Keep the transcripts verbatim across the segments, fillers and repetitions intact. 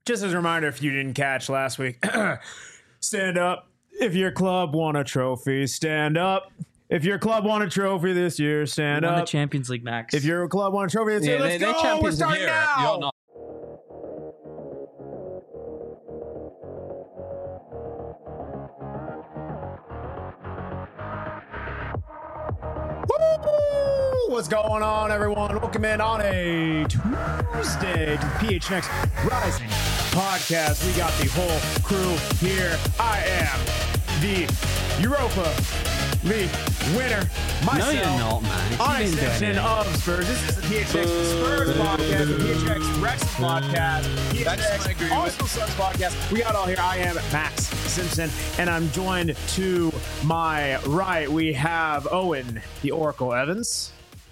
just as a reminder, if you didn't catch last week, stand up if your club won a trophy. Stand up if your club won a trophy this year. Stand won up. the Champions League, Max. If your club won a trophy this Yeah, year, let's they, go. they're champions We're of starting Europe. now. You're not. Woo! What's going on, everyone? Welcome in on a Tuesday to the P H N X Rising podcast. We got the whole crew here. I am the Europa League winner myself. No, you're not, man. On You didn't do extension anything. of Spurs. This is the P H N X Spurs podcast, the P H N X Rex podcast, P H N X Arsenal Suns podcast. We got all here. I am Max Simpson, and I'm joined to my right. We have Owen, the Oracle Evans.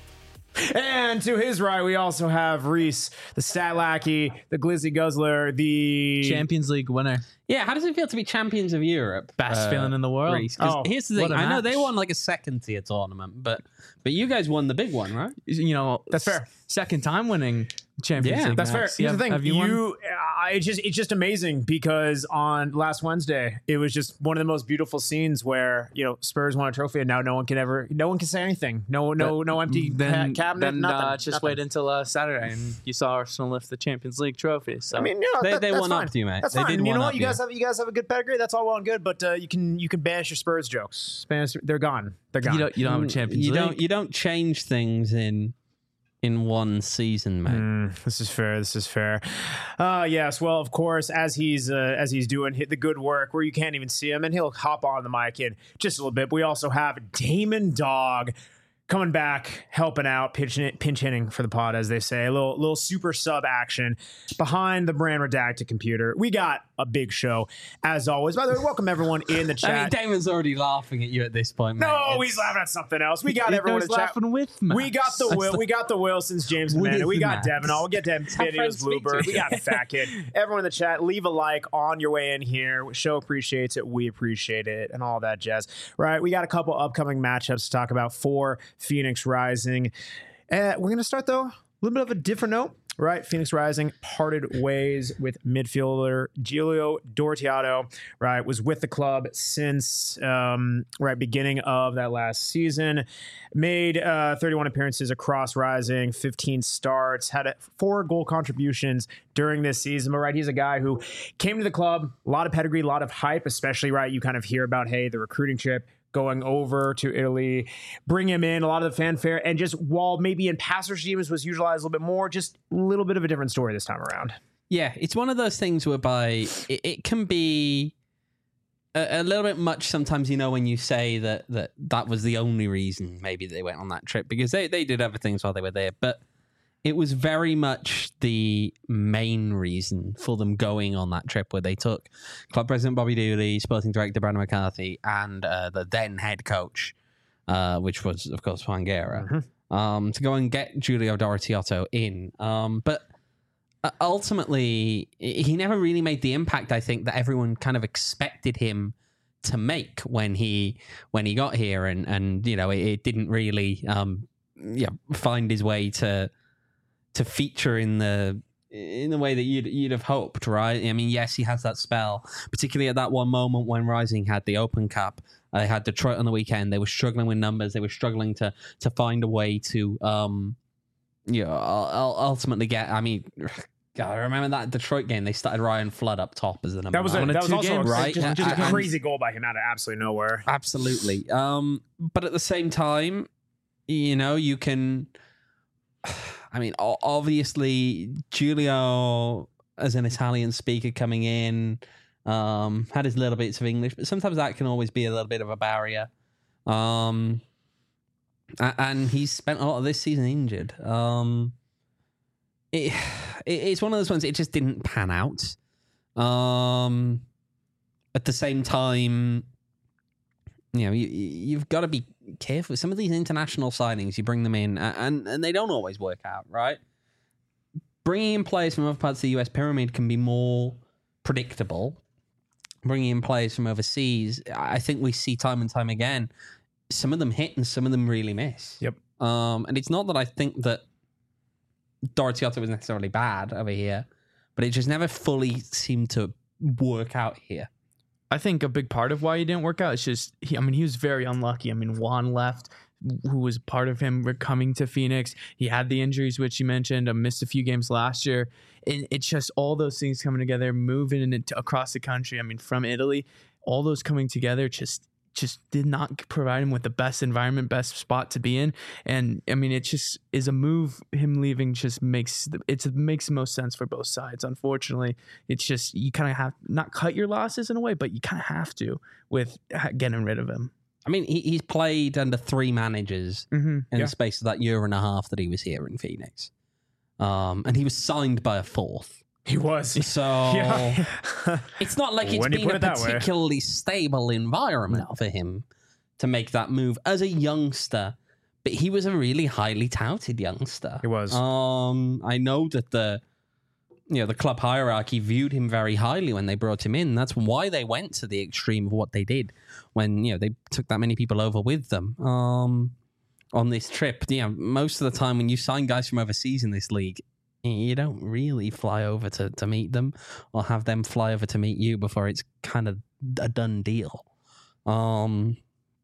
And to his right, we also have Reese, the Stat Lackey, the Glizzy Guzzler, the Champions League winner. Yeah, how does it feel to be champions of Europe? Best feeling in the world. Reece? 'Cause Oh, here's the what thing. a I know match. they won like a second tier tournament, but but you guys won the big one, right? You know, That's fair. Second time winning Champions Yeah, League. That's fair. Max. Here's Have- the thing. have You, you, won? uh, it's just it's just amazing because on last Wednesday it was just one of the most beautiful scenes where you know Spurs won a trophy and now no one can ever no one can say anything. No no no empty Then, ca- cabinet. then nothing. uh, just nothing. wait until uh, Saturday and you saw Arsenal lift the Champions League trophy. So I mean, you know, They- that, they that's one fine. upped you, mate. That's They fine. did And you know one what? up You guys you. have you guys have a good pedigree. That's all well and good. But uh, you can you can banish your Spurs jokes. Spanish, they're gone. They're gone. you don't you don't have a Champions you League. don't you don't change things in in one season, mate. Mm, this is fair. This is fair. Uh, yes. Well, of course, as he's uh, as he's doing hit the good work where you can't even see him, and he'll hop on the mic in just a little bit. But we also have Damon Dog coming back, helping out, pinch, pinch hitting for the pod, as they say. A little little super sub action behind the brand redacted computer. We got a big show as always. By the way, welcome everyone in the I chat. mean, Damon's already laughing at you at this point, mate. no, It's- he's laughing at something else. We got He everyone in was the chat. laughing with Max. We got the Will. We got the Wilsons, James With Amanda. We got Max. Devin. We'll get Devin how videos, friends speak to Bluebird. We each got Fat Kid. Everyone in the chat, leave a like on your way in here. Show appreciates it. We appreciate it, and all that jazz. Right? We got a couple upcoming matchups to talk about for Phoenix Rising. Uh, we're gonna start though a little bit of a different note. Right, Phoenix Rising parted ways with midfielder Giulio Dortiato. Right, was with the club since um, right beginning of that last season. Made uh, thirty-one appearances across Rising, fifteen starts, had a, four goal contributions during this season. But right, he's a guy who came to the club, a lot of pedigree, a lot of hype, especially right. You kind of hear about hey the recruiting trip. Going over to Italy, bring him in, a lot of the fanfare, and just while maybe in past regimes was utilized a little bit more, just a little bit of a different story this time around. Yeah, it's one of those things whereby it, it can be a, a little bit much sometimes, you know, when you say that, that that was the only reason maybe they went on that trip, because they, they did other things while they were there, but it was very much the main reason for them going on that trip, where they took club president Bobby Dooley, sporting director Brandon McCarthy, and uh, the then head coach, uh, which was, of course, Juan Guerra, Mm-hmm. um, to go and get Giulio Dortiato in. Um, but uh, ultimately, he never really made the impact, I think, that everyone kind of expected him to make when he when he got here, and and you know it, it didn't really um, yeah find his way to. to feature in the in the way that you'd you'd have hoped, right? I mean, yes, he has that spell, particularly at that one moment when Rising had the Open Cup. Uh, they had Detroit on the weekend. They were struggling with numbers. They were struggling to to find a way to, um, you know, ul- ultimately get. I mean, God, I remember that Detroit game. They started Ryan Flood up top as the number That was a, nine. that was two also games, a, right? just, just a And- crazy goal by him out of absolutely nowhere. Absolutely. Um, but at the same time, you know, you can. I mean, o- obviously, Giulio, as an Italian speaker coming in, um, had his little bits of English, but sometimes that can always be a little bit of a barrier. Um, a- and he's spent a lot of this season injured. Um, it, it it's one of those ones. It just didn't pan out. Um, at the same time, you know, you, you've got to be careful. Some of these international signings, you bring them in, and, and they don't always work out, right? Bringing in players from other parts of the U S pyramid can be more predictable. Bringing in players from overseas, I think we see time and time again, some of them hit and some of them really miss. Yep. Um, and it's not that I think that Dortiato was necessarily bad over here, but it just never fully seemed to work out here. I think a big part of why he didn't work out is just, he, I mean, he was very unlucky. I mean, Juan left, who was part of him coming to Phoenix. He had the injuries, which you mentioned, uh, missed a few games last year. And it's just all those things coming together, moving into, across the country. I mean, from Italy, all those coming together just just did not provide him with the best environment, best spot to be in. And I mean, it just is a move. Him leaving just makes it's, it makes the most sense for both sides. Unfortunately, it's just, you kind of have not cut your losses in a way, but you kind of have to with getting rid of him. I mean, he, he's played under three managers Mm-hmm. in Yeah. the space of that year and a half that he was here in Phoenix. Um, and he was signed by a fourth. He was. So Yeah. it's not like it's When you been put a it that way. particularly stable environment for him to make that move as a youngster. But he was a really highly touted youngster. He was. Um, I know that the you know the club hierarchy viewed him very highly when they brought him in. That's why they went to the extreme of what they did when you know they took that many people over with them. Um, on this trip, you know, most of the time when you sign guys from overseas in this league, you don't really fly over to, to meet them or have them fly over to meet you before it's kind of a done deal. Um,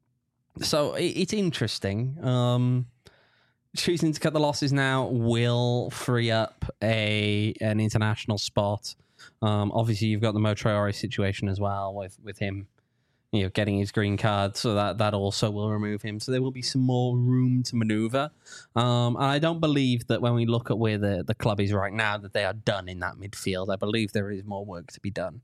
so it, it's interesting. Um, choosing to cut the losses now will free up a an international spot. Um, obviously, you've got the Mo Traore situation as well with, with him, you know, getting his green card, so that, that also will remove him. So there will be some more room to maneuver. Um, and I don't believe that when we look at where the, the club is right now, that they are done in that midfield. I believe there is more work to be done.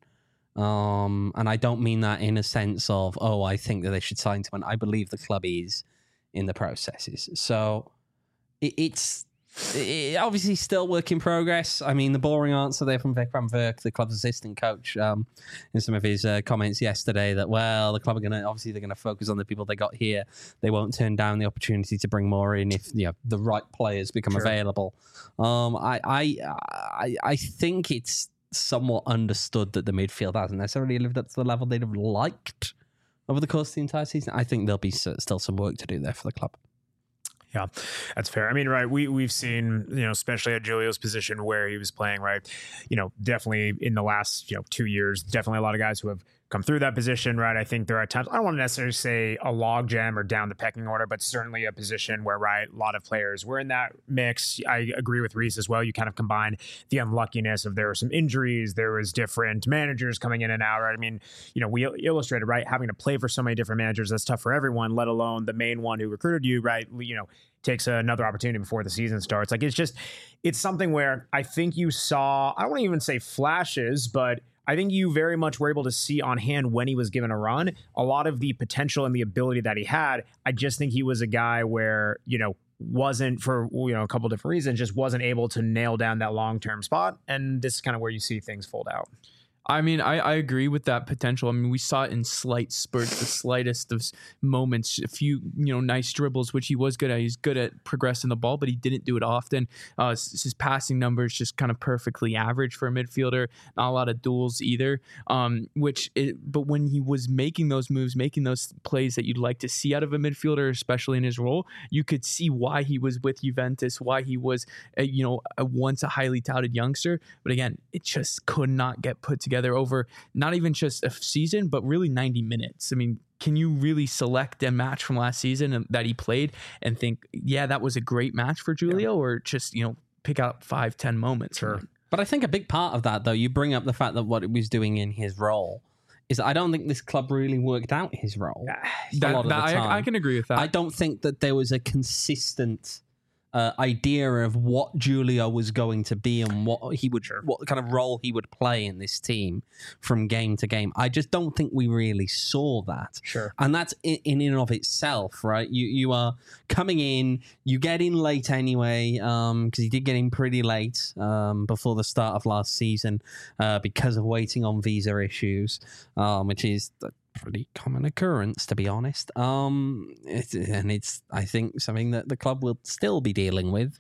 Um, and I don't mean that in a sense of, oh, I think that they should sign someone. I believe the club is in the processes. So it, it's... It, obviously still work in progress. I mean, the boring answer there from Vic van Verk, the club's assistant coach, um, in some of his uh, comments yesterday that, well, the club are going to, obviously they're going to focus on the people they got here. They won't turn down the opportunity to bring more in if, you know, the right players become Sure. available. Um, I, I, I, I think it's somewhat understood that the midfield hasn't necessarily lived up to the level they'd have liked over the course of the entire season. I think there'll be s- still some work to do there for the club. Yeah, that's fair. I mean, right, we, we've seen, you know, especially at Julio's position where he was playing, right, you know, definitely in the last, you know, two years, definitely a lot of guys who have come through that position, right? I think there are times, I don't want to necessarily say a log jam or down the pecking order, but certainly a position where, right, a lot of players were in that mix. I agree with Reese as well. You kind of combine the unluckiness of there were some injuries, there was different managers coming in and out, right? I mean, you know, we illustrated, right, having to play for so many different managers, that's tough for everyone, let alone the main one who recruited you, right? You know, takes another opportunity before the season starts. Like, it's just, it's something where I think you saw, I don't want to even say flashes, but I think you very much were able to see on hand when he was given a run, a lot of the potential and the ability that he had. I just think he was a guy where, you know, wasn't for, you know, a couple different reasons, just wasn't able to nail down that long-term spot. And this is kind of where you see things fold out. I mean, I, I agree with that potential. I mean, we saw it in slight spurts, the slightest of moments, a few, you know, nice dribbles, which he was good at. He's good at progressing the ball, but he didn't do it often. Uh, his, his passing numbers just kind of perfectly average for a midfielder. Not a lot of duels either. Um, which, it, but when he was making those moves, making those plays that you'd like to see out of a midfielder, especially in his role, you could see why he was with Juventus, why he was, a, you know, a, once a highly touted youngster. But again, it just could not get put together over not even just a season, but really ninety minutes. I mean, can you really select a match from last season that he played and think, yeah, that was a great match for Julio, yeah. or just, you know, pick out five, ten moments? Sure. But I think a big part of that, though, you bring up the fact that what he was doing in his role is I don't think this club really worked out his role. That, a lot of that, the time. I, I can agree with that. I don't think that there was a consistent Uh, idea of what Julio was going to be and what he would, sure. what kind of role he would play in this team from game to game. I just don't think we really saw that. Sure. And that's in, in and of itself, right? You you are coming in, you get in late anyway, um, because you did get in pretty late um, before the start of last season uh, because of waiting on visa issues, um, which is the pretty common occurrence, to be honest. Um, it, and it's, I think, something that the club will still be dealing with.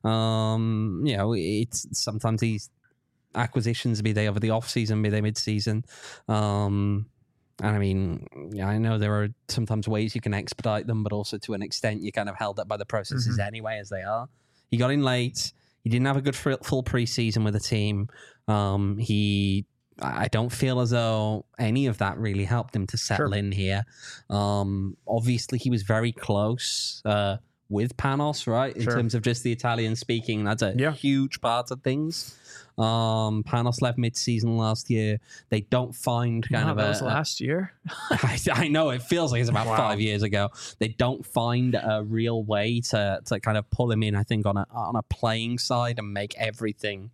Um, you know, it's sometimes these acquisitions, be they over the off season, be they mid season. Um, and I mean, yeah, I know there are sometimes ways you can expedite them, but also to an extent, you're kind of held up by the processes mm-hmm. anyway, as they are. He got in late. He didn't have a good full pre-season with the team. Um, he, I don't feel as though any of that really helped him to settle Sure. in here. Um, obviously, he was very close uh, with Panos, right? In Sure. terms of just the Italian speaking, that's a Yeah. huge part of things. Um, Panos left mid-season last year. They don't find kind Wow, of that a, was a- last year. I, I know it feels like it's about Wow. five years ago. They don't find a real way to to kind of pull him in. I think on a on a playing side and make everything,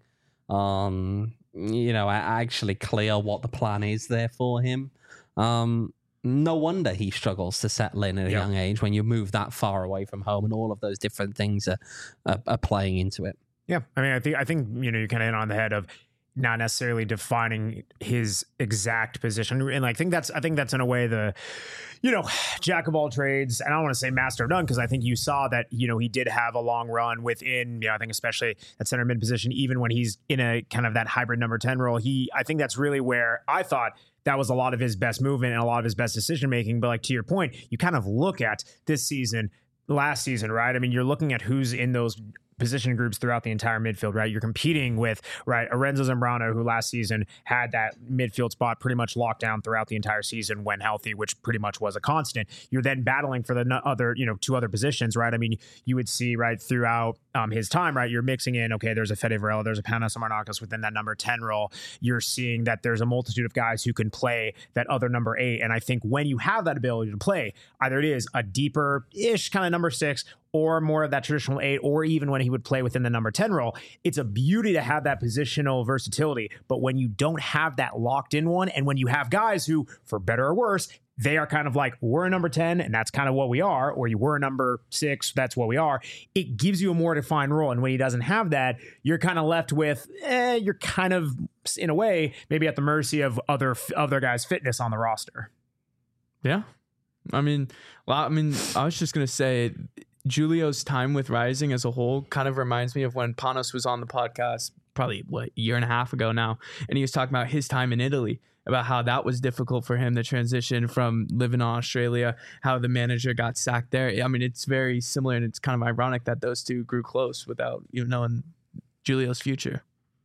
um, you know, a- actually clear what the plan is there for him. Um, no wonder he struggles to settle in at a Yeah. young age when you move that far away from home, and all of those different things are are, are playing into it. Yeah, I mean, I think I think you know you kind of hit on the head of not necessarily defining his exact position, and I think that's I think that's in a way the you know jack of all trades, and I don't want to say master of none because I think you saw that you know he did have a long run within you know I think especially at center mid position, even when he's in a kind of that hybrid number ten role. He I think that's really where I thought that was a lot of his best movement and a lot of his best decision making. But like to your point, you kind of look at this season, last season, right? I mean, you're looking at who's in those position groups throughout the entire midfield, right? You're competing with, right, Arenzo Zambrano, who last season had that midfield spot pretty much locked down throughout the entire season when healthy, which pretty much was a constant. You're then battling for the no- other, you know, two other positions, right? I mean, you would see, right, throughout um, his time, right, you're mixing in, okay, there's a Fede Varela, there's a Panos Marnakis within that number ten role. You're seeing that there's a multitude of guys who can play that other number eight. And I think when you have that ability to play, either it is a deeper-ish kind of number six or more of that traditional eight, or even when he would play within the number ten role, it's a beauty to have that positional versatility. But when you don't have that locked in one, and when you have guys who, for better or worse, they are kind of like, we're a number ten, and that's kind of what we are, or you were a number six, that's what we are, it gives you a more defined role. And when he doesn't have that, you're kind of left with, eh, you're kind of, in a way, maybe at the mercy of other other guys' fitness on the roster. Yeah. I mean, well, I mean, I was just going to say, Julio's time with Rising as a whole kind of reminds me of when Panos was on the podcast probably what a year and a half ago now, and he was talking about his time in Italy, about how that was difficult for him, the transition from living in Australia, how the manager got sacked there. I mean, it's very similar, and it's kind of ironic that those two grew close without you knowing Julio's future.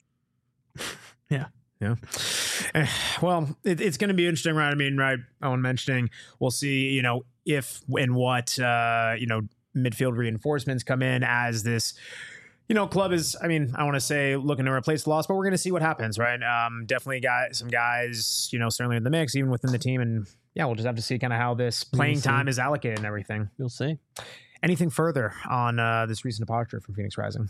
Yeah. Yeah. Eh, Well, it, it's going to be interesting, right? I mean, right, Owen mentioning, we'll see, you know, if and what, uh, you know, midfield reinforcements come in as this, you know, club is, I mean, I want to say looking to replace the loss, but we're going to see what happens, right? Um, definitely got some guys, you know, certainly in the mix, even within the team. And yeah, we'll just have to see kind of how this playing see. time is allocated and everything. We'll see. Anything further on uh, this recent departure from Phoenix Rising?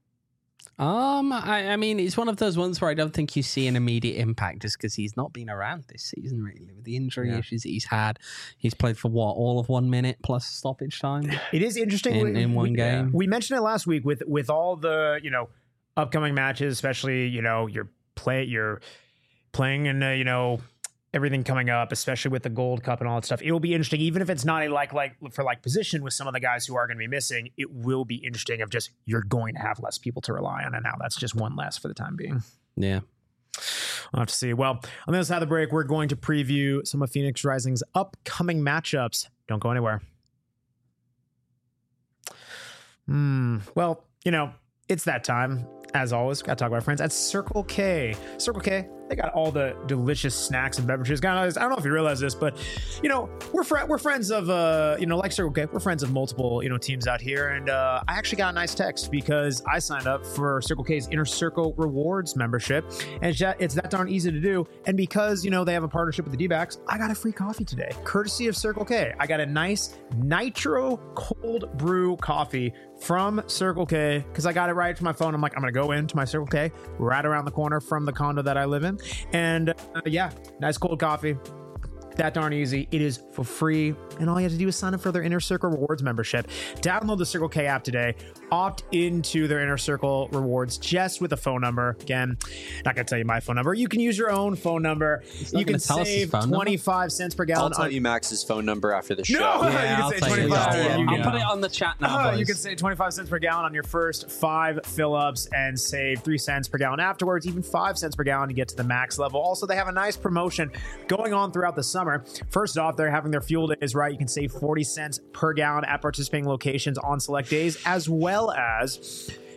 Um, I, I mean, it's one of those ones where I don't think you see an immediate impact just because he's not been around this season, really, with the injury Yeah. issues that he's had. He's played for what, all of one minute plus stoppage time It is interesting in, in one we, game. We mentioned it last week with with all the you know upcoming matches, especially you know you're play you're playing in uh, you know everything coming up, especially with the Gold Cup and all that stuff. It will be interesting, even if it's not a like like for like position with some of the guys who are going to be missing. It will be interesting of just you're going to have less people to rely on, and now that's just one less for the time being. Yeah. We'll have to see. Well, on the other side of the break, we're going to preview some of Phoenix Rising's upcoming matchups. Don't go anywhere. Hmm. Well, you know, it's that time. As always, got to talk about our friends at Circle K. Circle K, they got all the delicious snacks and beverages. Guys, I don't know if you realize this, but you know, we're fr- we're friends of uh, you know, like Circle K, we're friends of multiple you know teams out here, and uh, I actually got a nice text because I signed up for Circle K's Inner Circle Rewards membership, and it's that, it's that darn easy to do. And because you know they have a partnership with the D-backs, I got a free coffee today, courtesy of Circle K. I got a nice nitro cold brew coffee from Circle K because I got it right to my phone. I'm like, I'm gonna go into my Circle K right around the corner from the condo that I live in, and uh, yeah, nice cold coffee. That darn easy. It is for free, and all you have to do is sign up for their Inner Circle Rewards membership. Download the Circle K app today. Opt into their Inner Circle Rewards just with a phone number. Again, not gonna tell you my phone number. You can use your own phone number. not You can gonna tell us his save phone number? twenty-five cents per I'll gallon. tell on- you Max's phone number after the show. No! Yeah, You can I'll say take it. twenty-five. Yeah, You I'll can- put it on the chat now, Uh, boys. you can save twenty-five cents per gallon on your first five fill-ups and save three cents per gallon afterwards, even five cents per gallon to get to the max level. Also, they have a nice promotion going on throughout the summer. First off, they're having their fuel days, right? You can save forty cents per gallon at participating locations on select days, as well as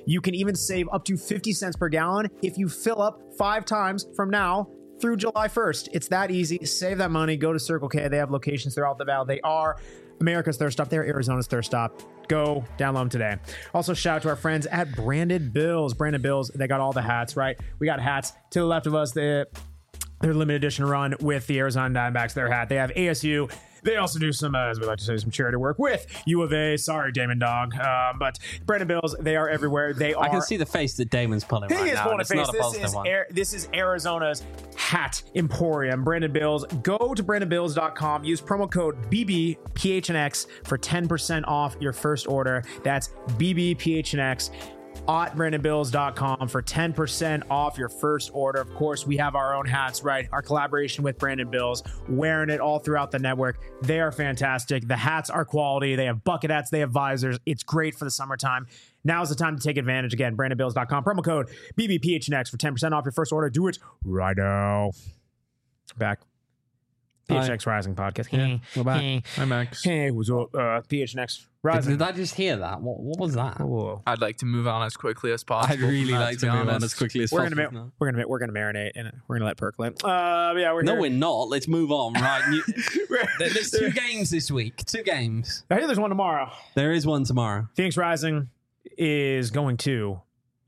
You can even save up to fifty cents per gallon if you fill up five times from now through July first. It's that easy. Save that money. Go to Circle K. They have locations throughout the valley. They are America's thirst stop. They're Arizona's thirst stop. Go download them today. Also, shout out to our friends at Branded Bills. Branded Bills, they got all the hats, right? We got hats to the left of us. They, their limited edition run with the Arizona Diamondbacks, their hat. They have A S U. They also do some, uh, as we like to say, some charity work with U of A. Sorry, Damon Dog. Uh, but Branded Bills, they are everywhere. They are. I can see the face that Damon's pulling He right is now. pulling a It's face. not a This positive is, one. Air, this is Arizona's hat emporium. Branded Bills. Go to branded bills dot com. Use promo code B B P H N X for ten percent off your first order. That's B B P H N X. At branded bills dot com for ten percent off your first order. Of course, we have our own hats, right? Our collaboration with Branded Bills, wearing it all throughout the network. They are fantastic. The hats are quality. They have bucket hats. They have visors. It's great for the summertime. Now's the time to take advantage. Again, branded bills dot com. Promo code B B P H N X for ten percent off your first order. Do it right now. Back. P H N X Rising podcast. Yeah, we're back. Hey, Hi, Max. hey, what's up? Uh, P H N X Did, Rising. did I just hear that? What, what was that? Whoa. I'd like to move on as quickly as possible. I'd really from that, like to be move on honest. as quickly as We're possible. gonna, ma- we're gonna, we're gonna marinate in it. We're gonna let percolate. Uh, yeah, we're No, here. we're not. Let's move on. Right. You, We're- there- there's two games this week. Two games. I hear there's one tomorrow. There is one tomorrow. Phoenix Rising is going to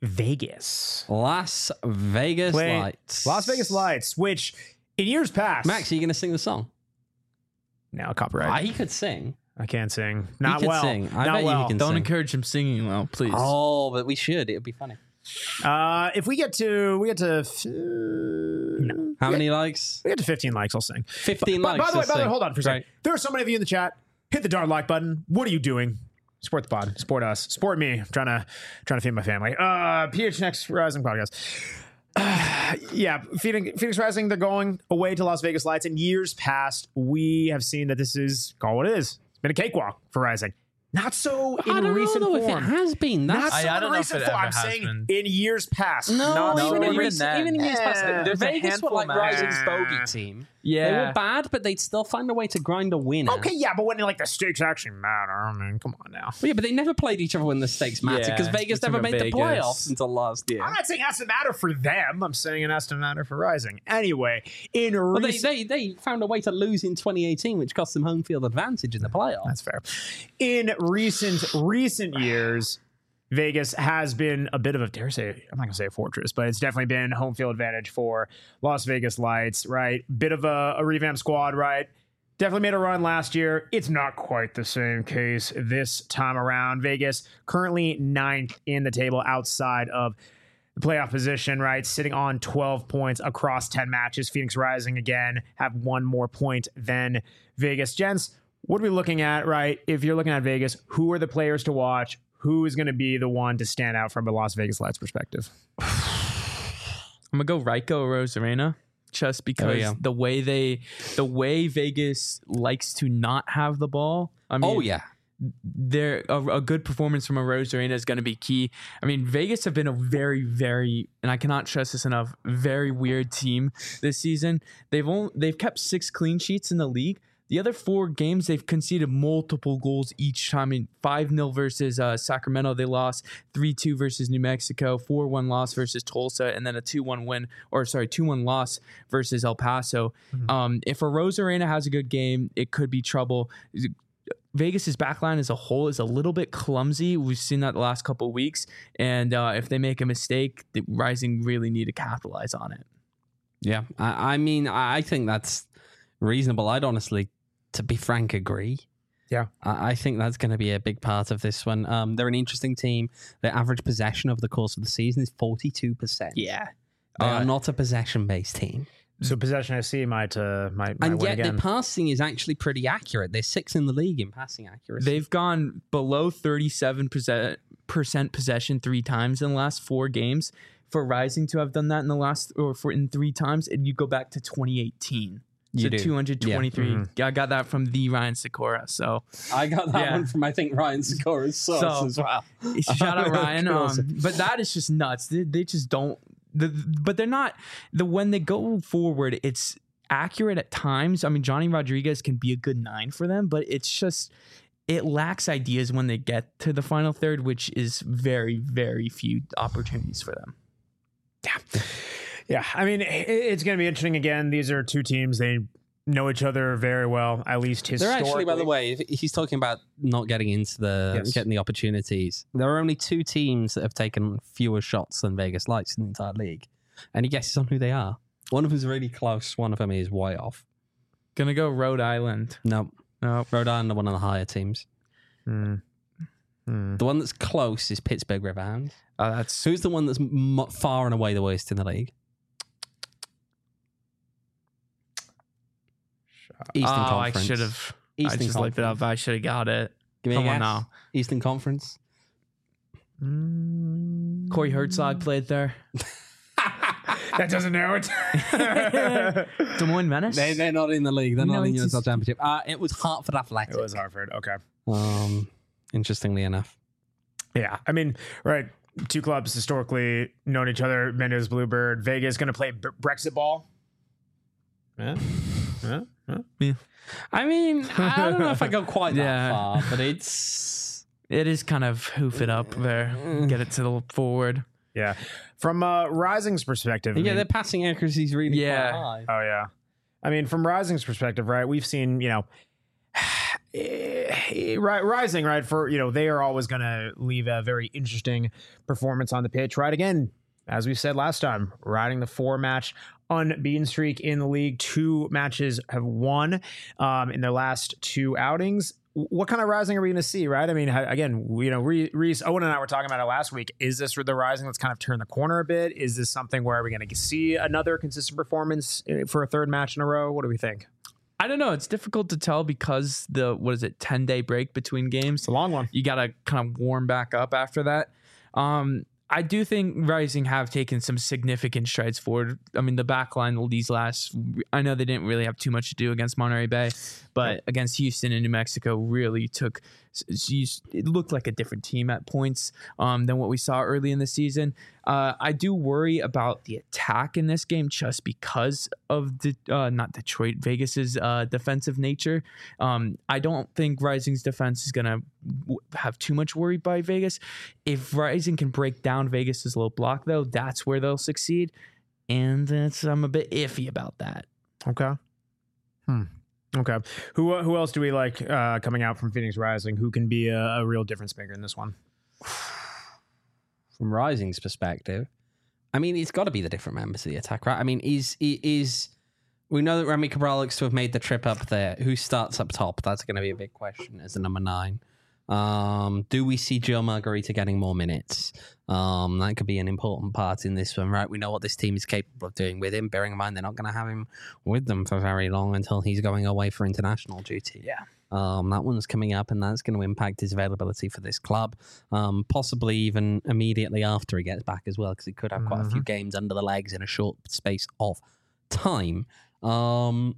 Vegas. Las Vegas Play- Lights. Las Vegas Lights, which in years past. Max, are you going to sing the song? Now copyright. Ah, he could sing. I can't sing. Not could well. sing. I Not bet you well. he can Don't sing. encourage him singing well, please. Oh, but we should. It would be funny. Uh, if we get to we get to f- no. How many likes? we get to fifteen likes, I'll sing. fifteen By, likes. by the way, let's by the way, sing. hold on for a second. Right. There are so many of you in the chat. Hit the darn like button. What are you doing? Support the pod. Support us. Support me. I'm trying to trying to feed my family. Uh, P H N X Rising podcast. Uh, yeah, Phoenix, Phoenix Rising. They're going away to Las Vegas Lights. In years past, we have seen that this is call what it is. It's been a cakewalk for Rising. Not so in I don't recent know form. if it has been. Not That's so I- I in don't know if recent it form. ever I'm has saying been. in years past. no, not no, so even, in in even recent, then. even in years past. Yeah. There's a Vegas were handful, like man. Rising's bogey team. yeah. They were bad, but they'd still find a way to grind a win. Okay, yeah, but when like the stakes actually matter, I mean, come on now. Well, yeah, but they never played each other when the stakes mattered because Yeah, Vegas it's never about made the Vegas. playoffs until last year. I'm not saying it has to matter for them. I'm saying it has to matter for Rising. Anyway, in Well, they, recent... they they found a way to lose in twenty eighteen, which cost them home field advantage in the playoffs. That's fair. In recent recent years, Vegas has been a bit of a, dare I say, I'm not going to say a fortress, but it's definitely been home field advantage for Las Vegas Lights, right? Bit of a, a revamp squad, right? Definitely made a run last year. It's not quite the same case this time around. Vegas currently ninth in the table outside of the playoff position, right? Sitting on twelve points across ten matches. Phoenix Rising, again, have one more point than Vegas. Gents, what are we looking at, right? If you're looking at Vegas, who are the players to watch? Who is going to be the one to stand out from a Las Vegas Lights perspective? I'm gonna go Raiko Rosarena just because Oh, yeah. the way they, the way Vegas likes to not have the ball. I mean, Oh yeah, they're a, a good performance from a Rosarena is going to be key. I mean, Vegas have been a very, very, and I cannot stress this enough, very weird team this season. They've only they've kept six clean sheets in the league. The other four games, they've conceded multiple goals each time. I mean, five nil versus uh, Sacramento, they lost. three two versus New Mexico. four one loss versus Tulsa. And then a two one win, or sorry, two one loss versus El Paso. Mm-hmm. Um, if a Rosarena has a good game, it could be trouble. Vegas's backline as a whole is a little bit clumsy. We've seen that the last couple of weeks. And uh, if they make a mistake, the Rising really need to capitalize on it. yeah. I, I mean, I I think that's reasonable. I'd honestly, to be frank, agree. Yeah. I, I think that's going to be a big part of this one. Um, they're an interesting team. Their average possession over the course of the season is forty-two percent. Yeah. They Uh, are not a possession-based team. So possession I see might, uh, might, might And win yet again. their passing is actually pretty accurate. They're sixth in the league in passing accuracy. They've gone below thirty-seven percent possession three times in the last four games. For Rising to have done that in the last, or for in three times, and you go back to twenty eighteen. You So do. two hundred twenty-three. Yeah. Mhm. Yeah, I got that from the Ryan Sikora. So I got that Yeah. one from, I think, Ryan Sikora's source So- as well. shout out Ryan. Um, Awesome. but that is just nuts. They, they just don't. The, but they're not. The when they go forward, it's accurate at times. I mean, Johnny Rodriguez can be a good nine for them, but it's just it lacks ideas when they get to the final third, which is very, very few opportunities for them. Yeah. Yeah. I mean, it, it's going to be interesting again. These are two teams. They know each other very well, at least historically. They're actually, by the way, if he's talking about not getting into the, Yes. getting the opportunities. There are only two teams that have taken fewer shots than Vegas Lights in the entire league. Any guesses on who they are? One of them is really close. One of them is way off. Gonna go Rhode Island. No. No. Rhode Island are one of the higher teams. Hmm. Hmm. The one that's close is Pittsburgh Riverhounds. Uh, that's Who's the one that's m- far and away the worst in the league? Eastern oh, Conference. I should have. I Eastern just looked it Conference. up. I should have got it. Give me Come a on guess. now. Eastern Conference. Mm. Corey Herzog played there. That doesn't narrow it. Des Moines Menace. They, they're not in the league. They're No, not in the it's U S L just- Championship. Uh, it was Hartford Athletic. It was Hartford. Okay. Um, interestingly enough. Yeah. I mean, right. Two clubs historically known each other. Mendes Bluebird. Vegas going to play b- Brexit ball. Yeah. Yeah. Yeah. I mean, I don't know if I go quite that Yeah. far, but it's It is kind of hoof it up there. Get it to the forward. Yeah. From uh, Rising's perspective. I yeah, mean- their passing accuracy is really Yeah. quite high. Oh yeah, I mean, from Rising's perspective, right? We've seen, you know, Ri- Rising, right? For you know, they are always going to leave a very interesting performance on the pitch, right? Again, as we said last time, riding the four-match unbeaten streak in the league. Two matches have won um, in their last two outings. What kind of Rising are we going to see, right? I mean, ha- again, we- you know, Reese, Owen and I were talking about it last week. Is this the Rising that's kind of turned the corner a bit? Is this something where we're going to see another consistent performance uh, for a third match in a row? What do we think? I don't know. It's difficult to tell because the what is it, ten day break between games. It's a long one. You got to kind of warm back up after that. Um, I do think Rising have taken some significant strides forward. I mean, the back line these last, I know they didn't really have too much to do against Monterey Bay, but against Houston and New Mexico really took, it looked like a different team at points um, than what we saw early in the season. Uh, I do worry about the attack in this game just because of the, uh, not Detroit, Vegas's uh, defensive nature. Um, I don't think Rising's defense is going to w- have too much worry by Vegas. If Rising can break down Vegas's low block, though, that's where they'll succeed. And it's, I'm a bit iffy about that. Okay. Hmm. Okay. Who who else do we like uh, coming out from Phoenix Rising? Who can be a, a real difference maker in this one? From Rising's perspective, I mean, it's got to be the different members of the attack, right? I mean, is is we know that Remy Cabral looks to have made the trip up there. Who starts up top? That's going to be a big question as the number nine. Um, do we see Joe Margarita getting more minutes? Um, that could be an important part in this one, right? We know what this team is capable of doing with him, bearing in mind they're not going to have him with them for very long until he's going away for international duty. Yeah. Um, that one's coming up, and that's going to impact his availability for this club, um, possibly even immediately after he gets back as well, because he could have quite a few games under the legs in a short space of time. Um,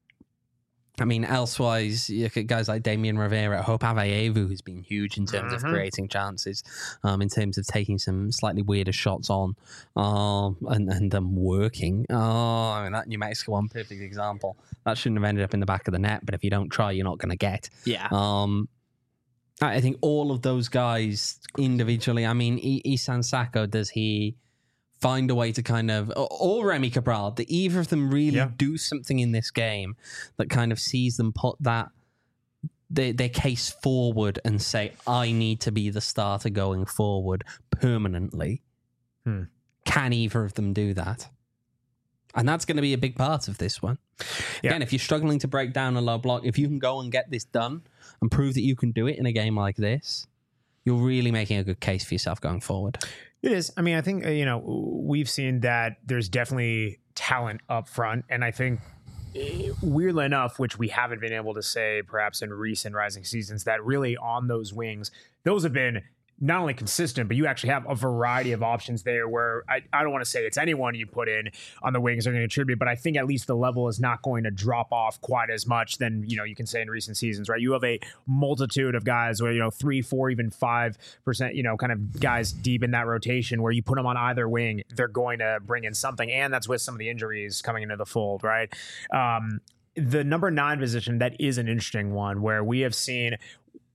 I mean, elsewise, you look at guys like Damian Rivera, Hope Aveyevu, who's been huge in terms Mhm. of creating chances, um, in terms of taking some slightly weirder shots on, um, and, and them working. Oh, I mean, that New Mexico one, perfect example. That shouldn't have ended up in the back of the net, but if you don't try, you're not going to get. Yeah. Um, I I think all of those guys individually, I mean, I- Isan Sako, does he find a way to kind of, or- or Remy Cabral, do either of them really Yeah. do something in this game that kind of sees them put that their, their case forward and say, I need to be the starter going forward permanently? Hmm. Can either of them do that? And that's going to be a big part of this one. Yeah. Again, if you're struggling to break down a low block, if you can go and get this done and prove that you can do it in a game like this, you're really making a good case for yourself going forward. It is. I mean, I think, uh, you know, we've seen that there's definitely talent up front. And I think, eh, weirdly enough, which we haven't been able to say perhaps in recent Rising seasons, that really on those wings, those have been not only consistent, but you actually have a variety of options there where I, I don't want to say it's anyone you put in on the wings are going to contribute, but I think at least the level is not going to drop off quite as much than, you know, you can say in recent seasons, right? You have a multitude of guys where, you know, three, four, even five percent, you know, kind of guys deep in that rotation where you put them on either wing, they're going to bring in something. And that's with some of the injuries coming into the fold, right? Um, the number nine position, that is an interesting one where we have seen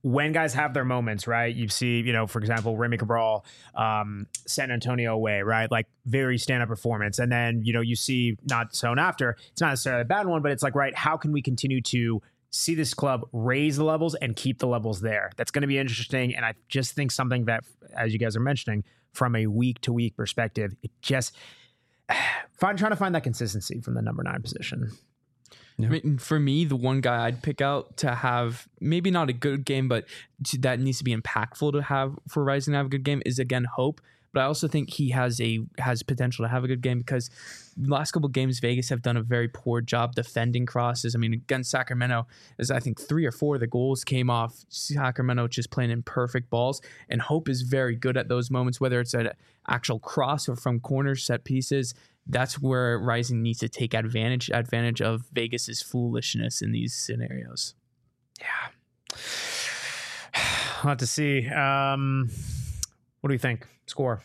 when guys have their moments, right? You see, you know, for example, Remy Cabral, um, San Antonio away, right? Like very stand-up performance. And then, you know, you see not soon after, it's not necessarily a bad one, but it's like, right, how can we continue to see this club raise the levels and keep the levels there? That's going to be interesting. And I just think something that, as you guys are mentioning, from a week-to-week perspective, it just, find, trying to find that consistency from the number nine position. I mean, for me, the one guy I'd pick out to have maybe not a good game, but to, that needs to be impactful to have for Rising to have a good game is again Hope. But I also think he has a has potential to have a good game because the last couple of games Vegas have done a very poor job defending crosses. I mean, against Sacramento, is I think three or four of the goals came off Sacramento just playing in perfect balls, and Hope is very good at those moments, whether it's an actual cross or from corner set pieces. That's where Rising needs to take advantage advantage of Vegas's foolishness in these scenarios. Yeah. I'll have to see. Um, what do you think? Score.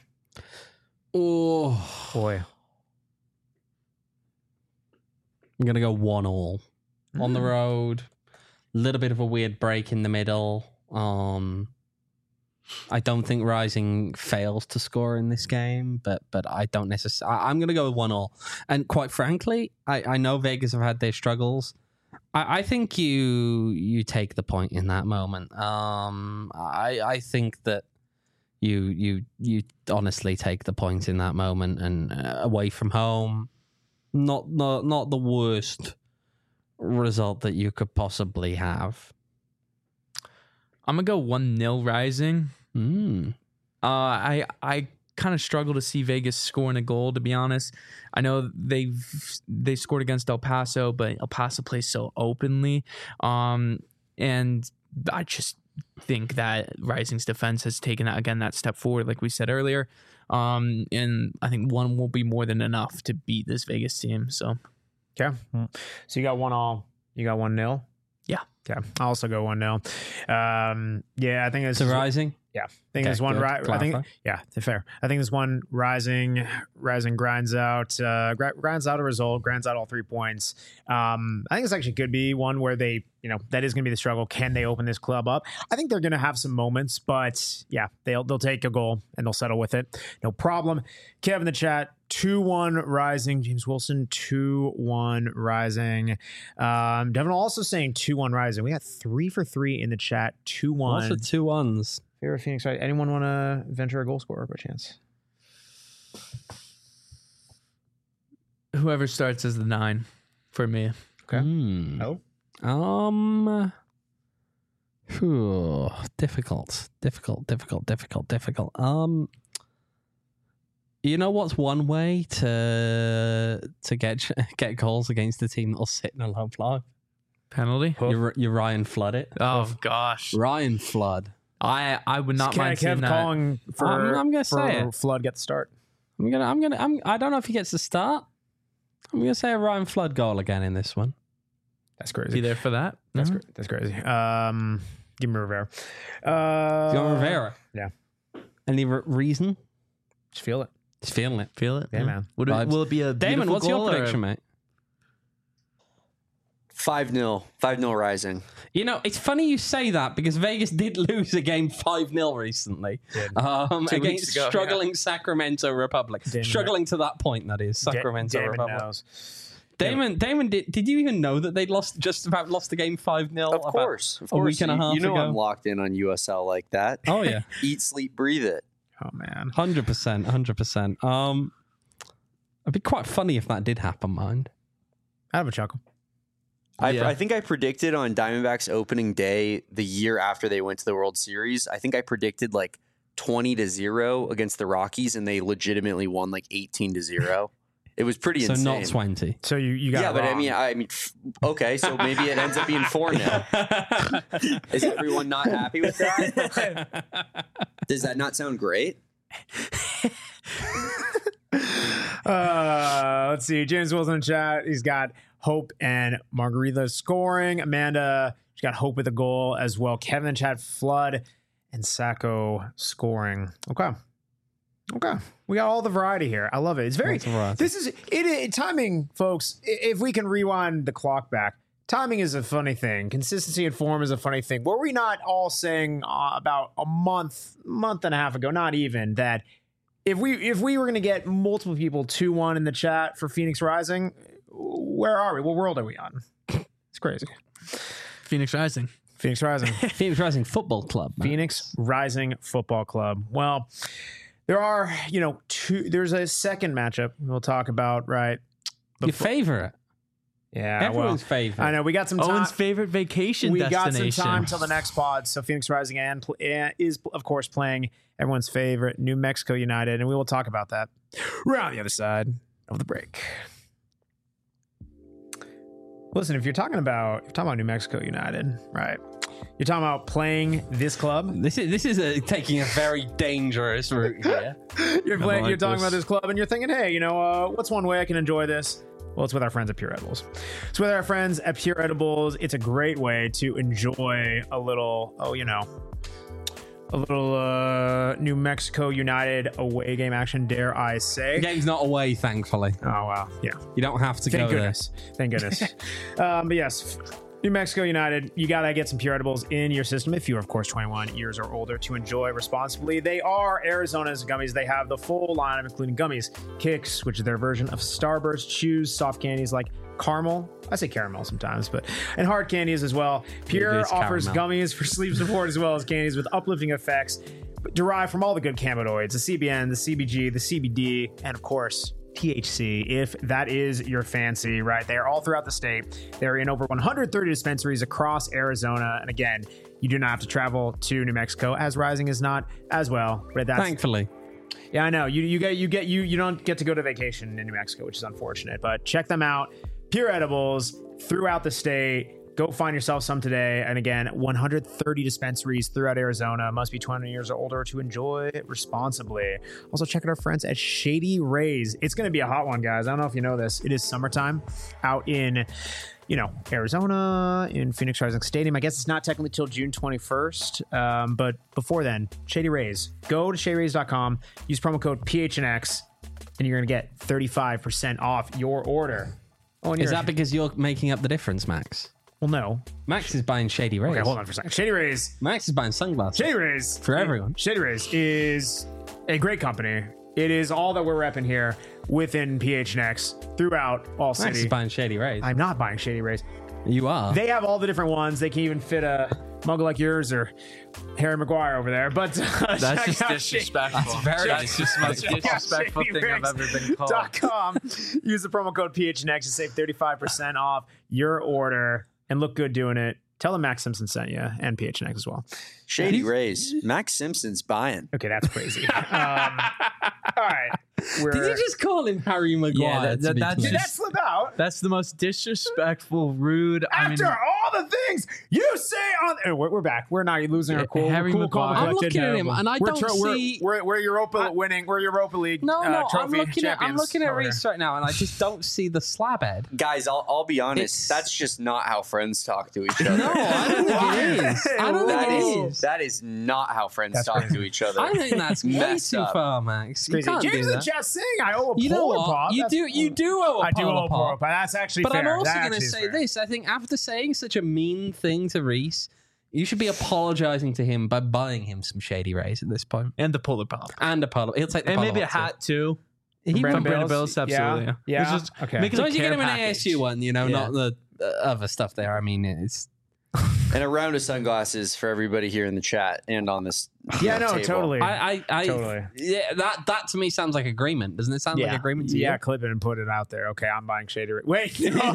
Oh, boy. I'm going to go one all. Mm. On the road. A little bit of a weird break in the middle. Um, I don't think Rising fails to score in this game, but but I don't necessarily. I'm going to go with one all. And quite frankly, I, I know Vegas have had their struggles. I, I think you you take the point in that moment. Um, I I think that you you you honestly take the point in that moment, and uh, away from home, not not not the worst result that you could possibly have. I'm gonna go one nil Rising. Mm. Uh, I I kind of struggle to see Vegas scoring a goal. To be honest, I know they've they scored against El Paso, but El Paso plays so openly, um, and I just think that Rising's defense has taken that again that step forward, like we said earlier. Um, and I think one will be more than enough to beat this Vegas team. So, okay, so you got one all, you got one nil. Yeah. Okay. I'll also go one nil. Um, yeah, I think it's to Rising. Yeah, I think okay, this one. Ri- I think yeah, fair. I think this one Rising, Rising grinds out, uh, grinds out a result, grinds out all three points. Um, I think this actually could be one where they, you know, that is going to be the struggle. Can they open this club up? I think they're going to have some moments, but yeah, they'll they'll take a goal and they'll settle with it, no problem. Kev in the chat. two one Rising. James Wilson, two one Rising. Um, Devin also saying two one Rising. We got three for three in the chat. two one. Also two ones. Favorite Phoenix, right? Anyone want to venture a goal scorer by chance? Whoever starts as the nine for me. Okay. Mm. Oh. Um. Whew, difficult, difficult, difficult, difficult, difficult. Um. You know what's one way to to get get goals against the team that'll sit in a low block? Penalty. You you Ryan Flood it. Oh gosh, Ryan Flood. I I would not mind seeing Kev that. calling for, I'm, I'm gonna for say it. Flood get the start. I'm gonna I'm gonna I'm I don't know if he gets the start. I'm gonna say a Ryan Flood goal again in this one. That's crazy. Be there for that. That's mm-hmm. cra- that's crazy. Um, give me Rivera. Uh, you want Rivera? Yeah. Any re- reason? Just feel it. Just feeling it. Feel it. Yeah, yeah. man. Would it, will it be a Damon? What's your prediction, or? mate? five nil. five nil Rising. You know, it's funny you say that because Vegas did lose a game five nil recently um, against ago, struggling yeah. Sacramento Republic. Damon struggling to that point, that is. Sacramento Da- Damon Republic. knows. Damon, Damon, did, did you even know that they'd lost just about lost the game five nil? Of course. Of a course. week and a half you, you know ago? I'm locked in on U S L like that. Oh, yeah. Eat, sleep, breathe it. Oh man. one hundred percent. one hundred percent. Um, it'd be quite funny if that did happen, mind. I have a chuckle. I, Yeah. I think I predicted on Diamondbacks opening day the year after they went to the World Series. I think I predicted like twenty to zero against the Rockies, and they legitimately won like eighteen to zero. It was pretty So insane. not twenty. So you you got yeah, it but I wrong. mean, I mean, f- okay, so maybe it ends up being four nil. Is everyone not happy with that? Does that not sound great? uh, let's see. James Wilson in chat. He's got Hope and Margarita scoring. Amanda, she's got Hope with a goal as well. Kevin in chat, Flood and Sacco scoring. Okay. Okay. We got all the variety here. I love it. It's very, Lots of variety. this is, it, it timing, folks. i- If we can rewind the clock back, timing is a funny thing. Consistency and form is a funny thing. Were we not all saying uh, about a month, month and a half ago, not even, that if we if we were going to get multiple people two one in the chat for Phoenix Rising, where are we? What world are we on? It's crazy. Phoenix Rising. Phoenix Rising. Phoenix Rising Football Club. Man. Phoenix Rising Football Club. Well, there are, you know, two. There's a second matchup we'll talk about, right? Your Before- favorite. Yeah, well, Everyone's favorite. I know we got some time. Owen's favorite vacation we destination. got some time till the next pod. So Phoenix Rising and pl- eh, is of course playing everyone's favorite New Mexico United, and we will talk about that. We're on the other side of the break. Listen, if you're talking about if you're talking about New Mexico United, right? You're talking about playing this club. This is this is a, taking a very dangerous route here. You're playing. like you're talking this. about this club, and you're thinking, hey, you know, uh, what's one way I can enjoy this? Well, it's with our friends at Pure Edibles. It's with our friends at Pure Edibles. It's a great way to enjoy a little, oh, you know, a little uh, New Mexico United away game action, dare I say. The game's not away, thankfully. Oh, wow. Yeah. You don't have to Thank go goodness. Thank goodness. um, but yes, New Mexico United, you got to get some Pure Edibles in your system if you're, of course, twenty-one years or older to enjoy responsibly. They are Arizona's gummies. They have the full lineup, including gummies, Kicks, which is their version of Starburst, chews, soft candies like caramel. I say caramel sometimes, but and hard candies as well. Pure is offers caramel. gummies for sleep support as well as candies with uplifting effects derived from all the good cannabinoids, the C B N, the C B G, the C B D, and of course, T H C, if that is your fancy, right? They are all throughout the state. They're in over one hundred thirty dispensaries across Arizona. And again, you do not have to travel to New Mexico, as Rising is not as well. But that's Thankfully. yeah, I know. You you get you get you you don't get to go to vacation in New Mexico, which is unfortunate. But check them out. Pure Edibles throughout the state. Go find yourself some today. And again, one hundred thirty dispensaries throughout Arizona. Must be twenty years or older to enjoy it responsibly. Also, check out our friends at Shady Rays. It's going to be a hot one, guys. I don't know if you know this. It is summertime out in, you know, Arizona, in Phoenix Rising Stadium. I guess it's not technically till June twenty-first. Um, but before then, Shady Rays. Go to shady rays dot com. Use promo code P H N X, and you're going to get thirty-five percent off your order. Oh, and Is you're- that because you're making up the difference, Max? Well, no. Max is buying Shady Rays. Okay, hold on for a second. Shady Rays. Max is buying sunglasses. Shady Rays. For everyone. Shady Rays is a great company. It is all that we're repping here within P H N X throughout all Max city. is buying Shady Rays. I'm not buying Shady Rays. You are. They have all the different ones. They can even fit a mug like yours or Harry Maguire over there. But uh, That's check just out disrespectful. That's very That's just the most check out disrespectful thing I've ever been called. Dot com. Use the promo code P H N X to save thirty-five percent off your order and look good doing it. Tell them Max Simpson sent you and P H N X as well. Shady Rays. Max Simpson's buying. Okay, that's crazy. um, all right. We're, Did you just call him Harry Maguire? Yeah, that- to that- be that's clear? did that slip out? That's the most disrespectful, rude. I mean, After all the things you say on, oh, we're, we're back. We're not losing our cool, Harry cool, calm, Maguire. I'm collected looking at him, nerve. and I we're don't we're, see- We're, we're Europa I- winning. We're Europa League. No, uh, no, I'm trophy looking at I'm champions looking at over Reese right now, and I just don't see the slab head. Guys, I'll, I'll be honest. It's- That's just not how friends talk to each other. No, I don't think it is. I don't That think it is is. that is not how friends That's talk crazy. to each other. I think that's way Mess too up. far, Max. You Crazy. can't James do in the that. chat saying I owe a You know polar what? pop. You That's- do. You do owe a I do polar owe a polar pop. pop. That's actually But fair. I'm also That going to actually is say fair. this. I think after saying such a mean thing to Reese, you should be apologizing to him by buying him some Shady Rays at this point. and the polar pop, And a polar. He'll take the and polar maybe a pop too. hat too. He From will- From Brandon Brandon Bills? Bills, Yeah, absolutely. yeah. It's just Okay. make As it long a as you get care him an package. A S U one, you know, Yeah. not the uh, other stuff there. I mean, it's and a round of sunglasses for everybody here in the chat and on this. Yeah, uh, no, table. totally. I, I, I Totally. yeah, that that to me sounds like agreement. Doesn't it sound yeah. like agreement to yeah, you? clip it and put it out there. Okay, I'm buying Shady Rays. Wait.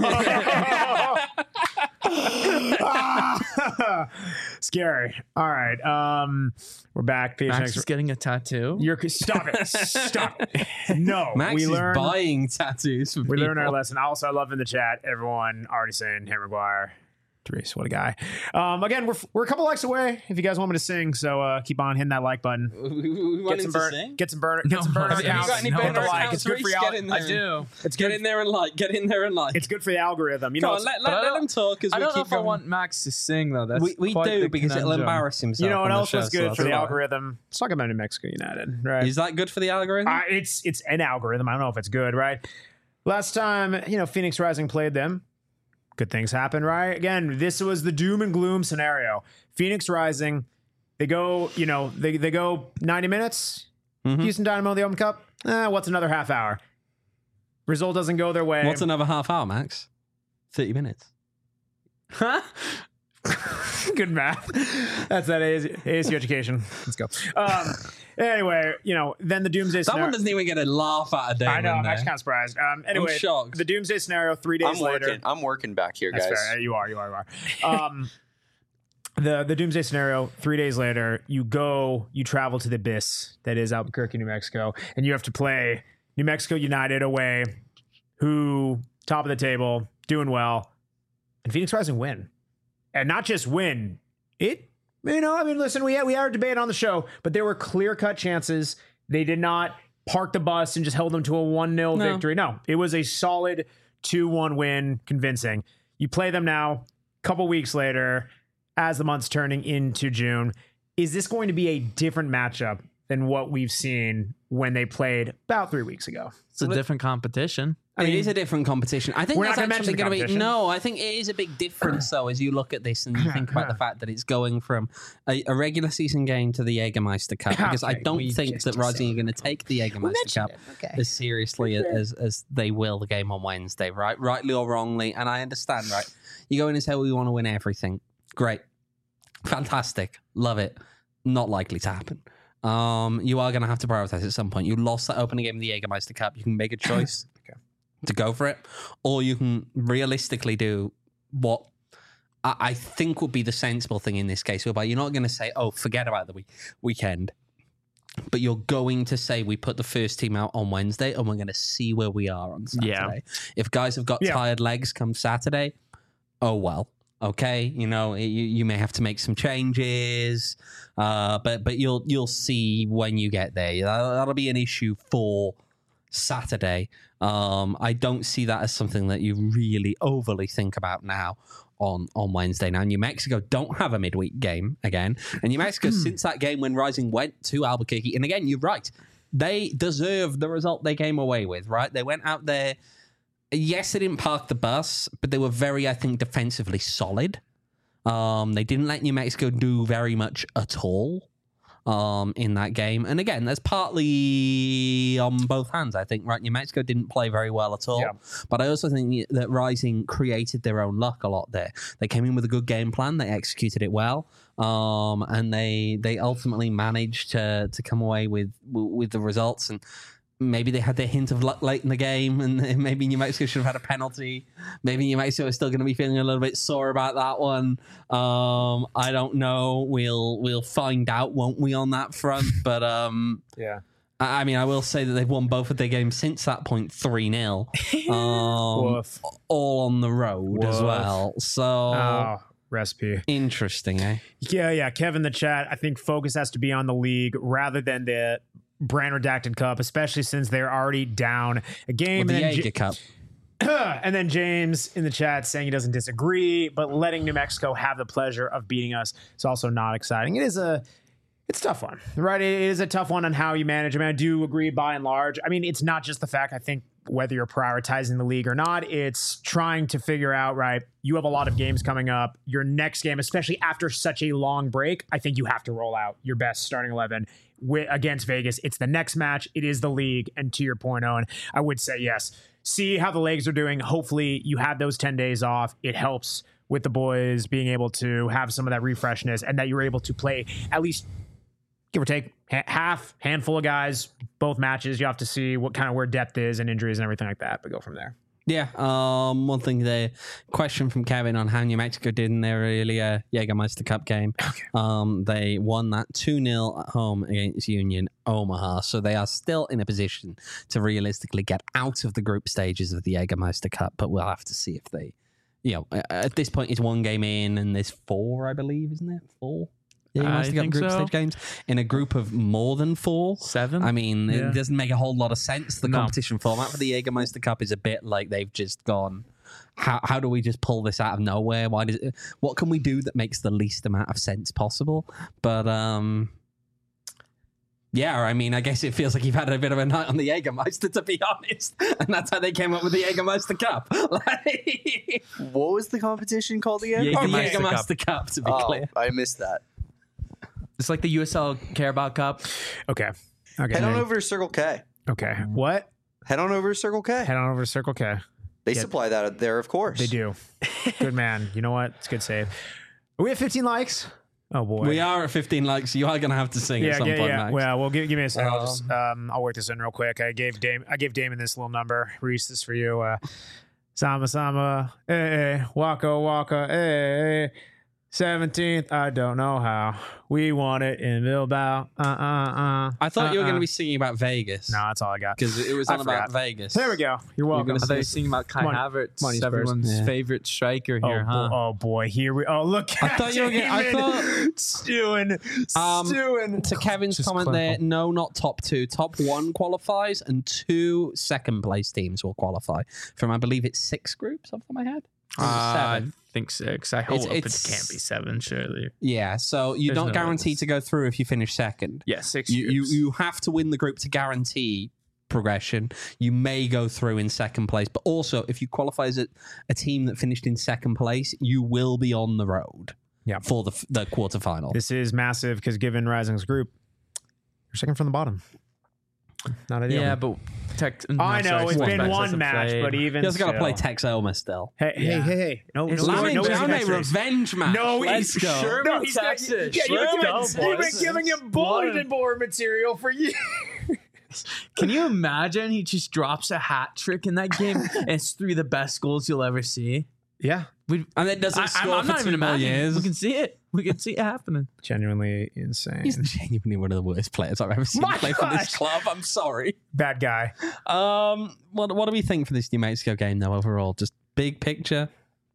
Scary. All right. Um, we're back. P H N Max X. is getting a tattoo. You're stop it. Stop. it. No. Max we is learned. buying tattoos for We people. learned our lesson. Also, I love in the chat everyone already saying Harry Maguire. Therese, what a guy. Um, again, we're we're a couple likes away. If you guys want me to sing, so uh, keep on hitting that like button. We, we Get wanted some to burn. sing. Get some burner. No, Get some burner have you accounts. got any Hit burner the like. accounts, It's good for Reese? the Get al- in there. I do. It's Get good. in there and like. Get in there and like. It's good for the algorithm. You Come know. on, it's- let, But I let, let don't- him talk as I we don't know keep if I going. want Max to sing though. That's we we quite do the because it'll conundrum. embarrass himself. you know what on the else show, was so good that's for the all right. algorithm? Let's talk about New Mexico United, right? Is that good for the algorithm? Uh, it's it's an algorithm. I don't know if it's good, right? Last time, you know, Phoenix Rising played them. good things happen, right? Again, this was the doom and gloom scenario. Phoenix Rising, they go, you know, they, they go ninety minutes. Mhm. Houston Dynamo, the Open Cup. Eh, what's another half hour? Result doesn't go their way. What's another half hour, Max? thirty minutes. Huh? Good math. That's that A S U education. Let's go. Um, anyway, you know, then the Doomsday That scenario. one doesn't even get a laugh out of I know. Damon I'm there. actually kind of surprised. Um, anyway, shocked. the Doomsday scenario. Three days I'm later. working. I'm working back here, That's guys. fair. You are. You are. You are. Um, the the Doomsday scenario. Three days later, you go. You travel to the abyss that is Albuquerque, New Mexico, and you have to play New Mexico United away, who top of the table, doing well, and Phoenix Rising win, and not just win. It. You know, I mean, listen, we had, we had a debate on the show, but there were clear cut chances. They did not park the bus and just held them to a one nil No. victory. No, it was a solid two one win, convincing. You play them now, a couple weeks later, as the month's turning into June. Is this going to be a different matchup than what we've seen when they played about three weeks ago? It's a different competition. I mean, it is a different competition. I think We're that's not gonna actually mention the going to be competition. no. I think it is a big difference though as you look at this and you think about the fact that it's going from a, a regular season game to the Jägermeister Cup. Because I Okay, don't we think just that Rising are going to take the Jägermeister mentioned Cup it, okay. as seriously as as they will the game on Wednesday, right? Rightly or wrongly, and I understand, right? You go in and say, "We want to win everything." Great, fantastic, love it. Not likely to happen. Um, you are going to have to prioritize at some point. You lost that opening game of the Jägermeister Cup. You can make a choice Okay. to go for it, or you can realistically do what I, I think would be the sensible thing in this case, whereby you're not going to say, "Oh, forget about the week- weekend," but you're going to say, "We put the first team out on Wednesday, and we're going to see where we are on Saturday." Yeah. If guys have got Yeah. tired legs come Saturday, oh well. Okay, you know you, you may have to make some changes, uh, but but you'll you'll see when you get there. That'll, that'll be an issue for Saturday. Um, I don't see that as something that you really overly think about now on on Wednesday. Now, New Mexico don't have a midweek game again, and New Mexico since that game when Rising went to Albuquerque, and again, you're right, they deserve the result they came away with. Right, they went out there. Yes, they didn't park the bus, but they were very, I think, defensively solid. Um, they didn't let New Mexico do very much at all um, in that game. And again, that's partly on both hands, I think, right? New Mexico didn't play very well at all. Yeah. But I also think that Rising created their own luck a lot there. They came in with a good game plan. They executed it well. Um, and they they ultimately managed to to come away with with the results. And maybe they had their hint of luck late in the game, and maybe New Mexico should have had a penalty. Maybe New Mexico is still going to be feeling a little bit sore about that one. Um, I don't know. We'll we'll find out, won't we, on that front? But um, Yeah. I I mean, I will say that they've won both of their games since that point, three nil, um, Woof. all on the road as Woof. well. So Oh, recipe. interesting, eh? Yeah, yeah. Kevin, the chat. I think focus has to be on the league rather than the brand redacted cup, especially since they're already down a game. With the and, then Jaeger J- Cup. and then James in the chat saying he doesn't disagree, but letting New Mexico have the pleasure of beating us is also not exciting. It is a it's a tough one, right? It is a tough one on how you manage. I mean, I do agree by and large. I mean, it's not just the fact, I think, whether you're prioritizing the league or not, it's trying to figure out, right, you have a lot of games coming up. Your next game, especially after such a long break, I think you have to roll out your best starting eleven with, against Vegas. It's the next match. It is the league. And to your point, Owen, I would say yes. See how the legs are doing. Hopefully you have those ten days off. It helps with the boys being able to have some of that refreshness and that you're able to play at least, give or take, ha- half, handful of guys, both matches. You have to see what kind of where depth is and injuries and everything like that, but go from there. Yeah, um, one thing there, question from Kevin on how New Mexico did in their earlier Jägermeister Cup game. Okay. Um, they won that two nil at home against Union Omaha, so they are still in a position to realistically get out of the group stages of the Jägermeister Cup, but we'll have to see if they, you know, at this point it's one game in and there's four, I believe, isn't it? Four? I Jägermeister Cup think group so. stage games in a group of more than four. Seven. I mean, Yeah. it doesn't make a whole lot of sense. The No. competition format for the Jägermeister Cup is a bit like they've just gone, how how do we just pull this out of nowhere? Why does it, what can we do that makes the least amount of sense possible? But um, Yeah, I mean, I guess it feels like you've had a bit of a night on the Jägermeister, to be honest. And that's how they came up with the Jägermeister Cup. Like, What was the competition called again? Yeah, oh, Jägermeister Jägermeister Cup, to be Oh, clear. I missed that. It's like the U S L Care About Cup. Okay. Okay. Head on over to Circle K. Okay. What? Head on over to Circle K. Head on over to Circle K. They Yeah. supply that there, of course. They do. Good man. You know what? It's a good save. Are we at fifteen likes? Oh boy. We are at fifteen likes. You are going to have to sing Yeah, at some yeah, point, yeah. Max. Well, well, give, give me a second. I'll Um, just um, I'll work this in real quick. I gave Dame, I gave Damon this little number. Reese, this for you. Uh, Sama Sama, eh, Waka Waka, eh, seventeenth. I don't know how. We want it in Bilbao. Uh, uh, uh. I thought you were uh, going to uh. be singing about Vegas. No, that's all I got. Because it was I on about forgot. Vegas. There we go. You're welcome. gonna I thought you were singing about Kai Come on. Havertz, Come on, you Spurs. everyone's Yeah. favorite striker Oh, here, bo- huh? oh boy, here we. Oh look, I thought you were gonna- I Damon thought- stewing, Um, stewing. To Kevin's Just comment clinical. there, no, not top two. Top one qualifies, and two second place teams will qualify from, I believe it's six groups off the top of my head. Or is it Uh, seven? I think six. I hope It's- it it's- can't be seven, surely. Yeah, so you're There's not no guaranteed others. to go through if you finish second. Yeah, six. You, you groups. you have to win the group to guarantee progression. You may go through in second place, but also if you qualify as a, a team that finished in second place, you will be on the road Yeah. for the the quarterfinal. This is massive because given Rising's group, you're second from the bottom. Not ideal. Yeah, but tech. no, I know sorry, it's Sports been Max one hasn't match, played. but even You also got to still. play Tex Elmer still. Hey, hey, Yeah. hey, hey! No, It's no, Lamine no, Lamine no, James Jammeh extras. revenge match. No, Let's he's go. Sure, no, he's Texas. Yeah, you've Let's been, go, giving, you've been boys. giving him bulletin board material for years. Can you imagine he just drops a hat trick in that game and it's three of the best goals you'll ever see? Yeah, We, And then doesn't I, I'm, score I'm for not two even more imagining. years. We can see it. We can see it happening. genuinely insane. He's genuinely one of the worst players I've ever seen My play for this gosh. club. I'm sorry. Bad guy. Um, what what do we think for this New Mexico game though? Overall, just big picture.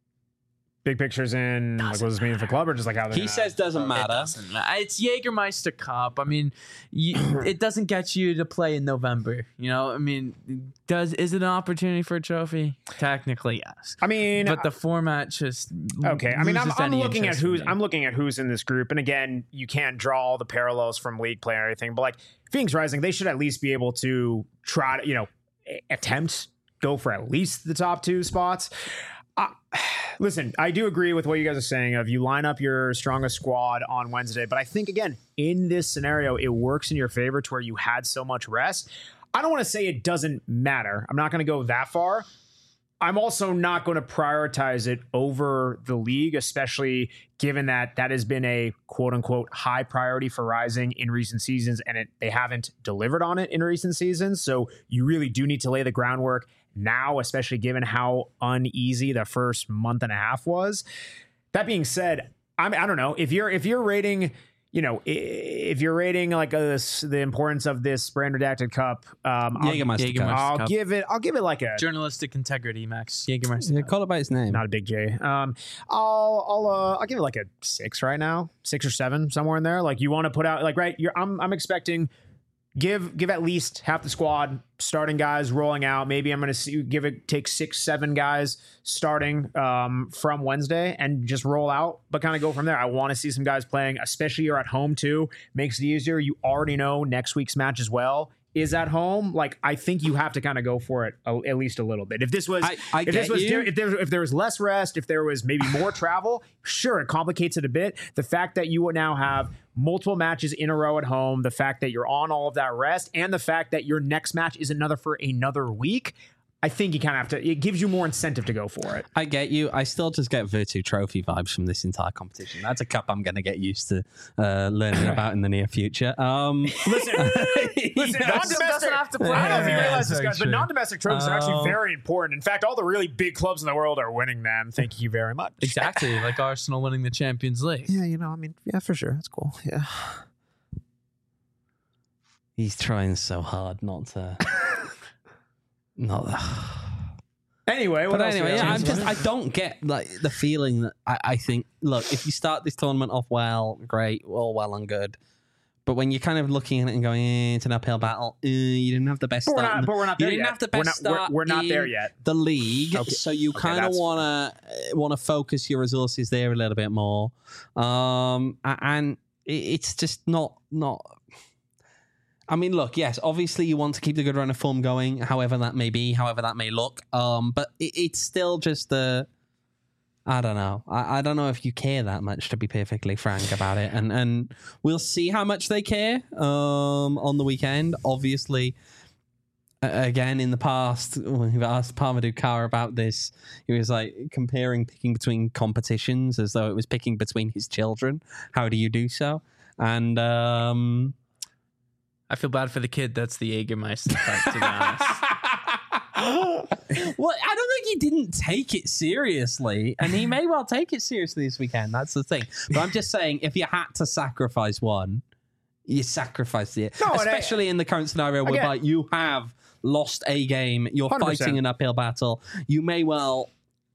Big pictures in like what does this mean for the club or just like how they're He gonna- says doesn't It matter. doesn't matter. It's Jägermeister Cup. I mean, you, it doesn't get you to play in November. You know, I mean, does is it an opportunity for a trophy? Technically, yes. I mean, But the format just okay. I mean, I'm, loses I'm any looking at interest for who's me. I'm looking at who's in this group, and again, you can't draw all the parallels from league play or anything. But like Phoenix Rising, they should at least be able to try to, you know, a- attempt go for at least the top two spots. Uh, listen, I do agree with what you guys are saying of you line up your strongest squad on Wednesday, but I think again in this scenario it works in your favor to where you had so much rest. I don't want to say it doesn't matter. I'm not going to go that far. I'm also not going to prioritize it over the league, especially given that that has been a quote unquote high priority for Rising in recent seasons, and it, they haven't delivered on it in recent seasons. So you really do need to lay the groundwork now, especially given how uneasy the first month and a half was. That being said, I'm, I don't know if you're if you're rating, you know, i- if you're rating like a, the importance of this brand redacted cup, um, I'll, Jägermeister Cup. Jägermeister. I'll Cup. give it. I'll give it like a journalistic integrity, Max Jägermeister. Yeah, Cup. call it by its name. not a big J. Um, I'll I'll uh, I'll give it like a six right now, six or seven somewhere in there. Like you want to put out like right. You're I'm I'm expecting. Give give at least half the squad starting guys rolling out. Maybe I'm going to see give it take six seven guys starting um, from Wednesday and just roll out, but kind of go from there. I want to see some guys playing, especially you're at home too. Makes it easier. You already know next week's match as well is at home. Like I think you have to kind of go for it a, at least a little bit. If this was I- I if this get was you. di- if there if there was less rest, if there was maybe more travel, sure, it complicates it a bit. The fact that you would now have multiple matches in a row at home, the fact that you're on all of that rest, and the fact that your next match is another for another week, I think you kind of have to. It gives you more incentive to go for it. I get you. I still just get Virtu Trophy vibes from this entire competition. That's a cup I'm going to get used to uh, learning about in the near future. Um, Listen, listen, Yeah. non-domestic. doesn't have to play. I don't know if you Yeah, realize that's this, very guys, but true. non-domestic trophies are actually Um, very important. In fact, all the really big clubs in the world are winning them. Thank you very much. Exactly, like Arsenal winning the Champions League. Yeah, you know, I mean, yeah, for sure, that's cool. Yeah. He's trying so hard not to. Not. Anyway, what But else? do we anyway, have? yeah, I'm just I don't get like the feeling that I, I think look, if you start this tournament off well, great, all well and good. But when you're kind of looking at it and going, eh, it's an uphill battle, eh, you didn't have the best But we're start. not, in the- but we're not you there didn't yet. have the we're best not, we're- start we're not there in yet. the league, Okay. so you Okay, kind of that's- wanna want to focus your resources there a little bit more, um, a- and it, it's just not not. I mean, look, yes, obviously you want to keep the good run of form going, however that may be, however that may look. Um, but it, it's still just the, I don't know. I, I don't know if you care that much, to be perfectly frank about it. And and we'll see how much they care um, on the weekend. Obviously, uh, again, in the past, when we've asked Parmadou Kara about this, he was like comparing picking between competitions as though it was picking between his children. How do you do so? And... Um, I feel bad for the kid. That's the Jägermeister part, to be honest. Well, I don't think he didn't take it seriously, and he may well take it seriously this weekend. That's the thing. But I'm just saying, if you had to sacrifice one, you sacrifice it. No, and I- Especially in the current scenario Again- whereby you have lost a game, you're one hundred percent. fighting an uphill battle, you may well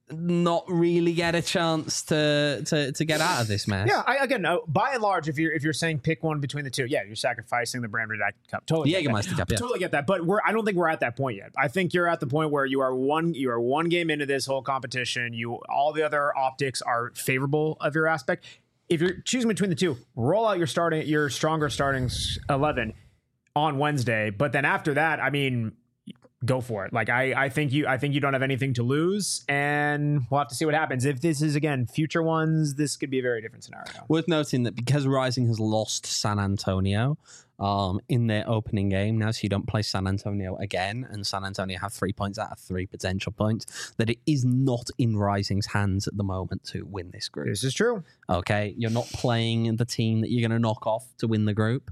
not really get a chance to to, to get out of this mess. Yeah, I, again, uh, by and large, if you're if you're saying pick one between the two, yeah, you're sacrificing the Brand Redacted Cup. Totally, The get that. Jägermeister Cup, yeah. Totally get that. But we're I don't think we're at that point yet. I think you're at the point where you are one you are one game into this whole competition. You all the other optics are favorable of your aspect. If you're choosing between the two, roll out your starting your stronger starting eleven on Wednesday. But then after that, I mean, go for it. Like I, I think you, I think you don't have anything to lose, and we'll have to see what happens. If this is again future ones, this could be a very different scenario. Worth noting that because Rising has lost San Antonio um, in their opening game now, so you don't play San Antonio again, and San Antonio have three points out of three potential points, that it is not in Rising's hands at the moment to win this group. This is true. Okay, you're not playing the team that you're going to knock off to win the group.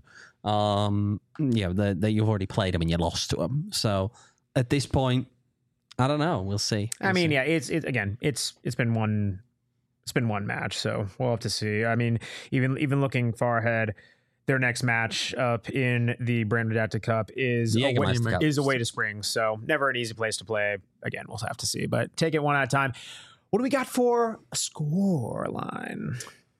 Um, you know, the, the, you've already played them and you lost to them. So at this point, I don't know. We'll see. We'll I mean, see. yeah, it's it again. It's it's been one, it's been one match, so we'll have to see. I mean, even even looking far ahead, their next match up in the Brand Redacted Cup is The away, Jägermeister Cup. is away to Springs, so never an easy place to play. Again, we'll have to see, but take it one at a time. What do we got for a score line?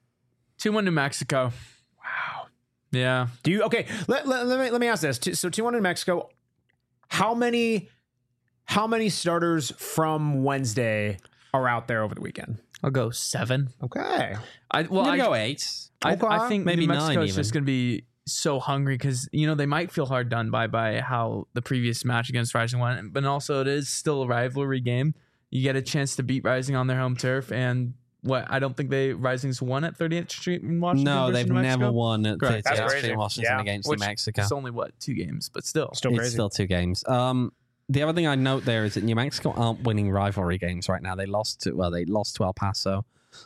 two one New Mexico. Wow. Yeah. Do you okay? Let, let, let me let me ask this. So two one in Mexico. How many how many starters from Wednesday are out there over the weekend? I'll go seven. Okay. I well, I'm I, gonna go eight. I, Okay. I think Maybe New Mexico nine is just even. going to be so hungry because you know they might feel hard done by by how the previous match against Rising went, but also it is still a rivalry game. You get a chance to beat Rising on their home turf, and what I don't think they Rising's won at thirtieth Street in Washington. No, versus they've New Mexico. never won at Correct. That's thirtieth crazy. Street in Washington Yeah. against Which New Mexico. It's only what two games, but still. Still It's crazy. still two games. Um, the other thing I note there is that New Mexico aren't winning rivalry games right now. They lost to well, they lost to El Paso.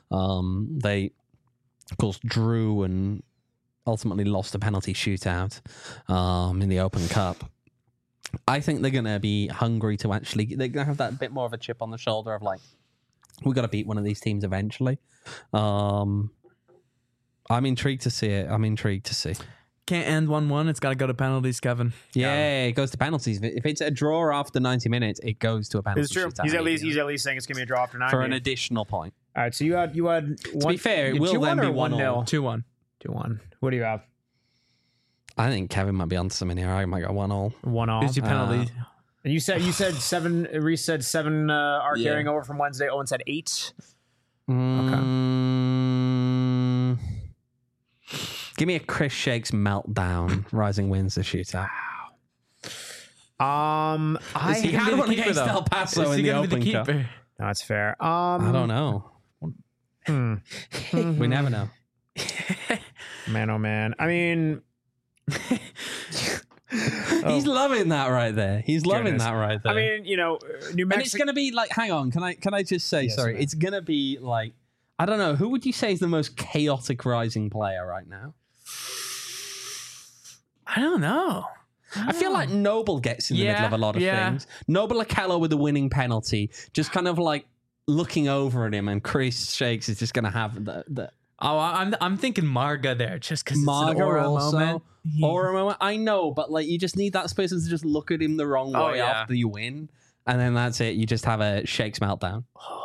Um, they, of course, drew and ultimately lost a penalty shootout um, in the Open Cup. I think they're going to be hungry to actually. They're going to have that bit more of a chip on the shoulder of like, we got to beat one of these teams eventually. Um, I'm intrigued to see it. I'm intrigued to see. Can't end one one. It's got to go to penalties, Kevin. Yeah, it goes to penalties. If it's a draw after ninety minutes, it goes to a penalty. It's true. shootout He's at least immediately. he's at least saying it's gonna be a draw after nine. for an additional point. All right, so you had you had To one, be fair, it you- will two then one be or one one all. nil. two one. Two one. What do you have? I think Kevin might be onto something here. I might go one all. One all. Who's your penalty? And you said you said seven. Reese said seven uh, are Yeah. carrying over from Wednesday. Owen said eight. Mm, give me a Chris Shakes meltdown. Rising wins the shootout. Um, I he gonna had be the one keeper, against though? El Paso Is in he the gonna be Open the Cup. keeper? no, that's fair. Um, I don't know. Hmm. We never know. Man, oh man. I mean, He's loving that right there. He's loving Goodness. that right there. I mean, you know, New and it's Mexico. gonna be like, hang on, can I can I just say, Yes, sorry, man. it's gonna be like, I don't know, who would you say is the most chaotic Rising player right now? I don't know. I feel like Noble gets in the Yeah, middle of a lot of yeah. things. Noble Akello with the winning penalty, just kind of like looking over at him, and Chris Shakes is just gonna have the the Oh, I- I'm I'm thinking Marga there just because it's Marga an aura also. moment. He- Or a moment. I know, but like you just need that person to just look at him the wrong Oh, way yeah. after you win, and then that's it. You just have a Shakes meltdown.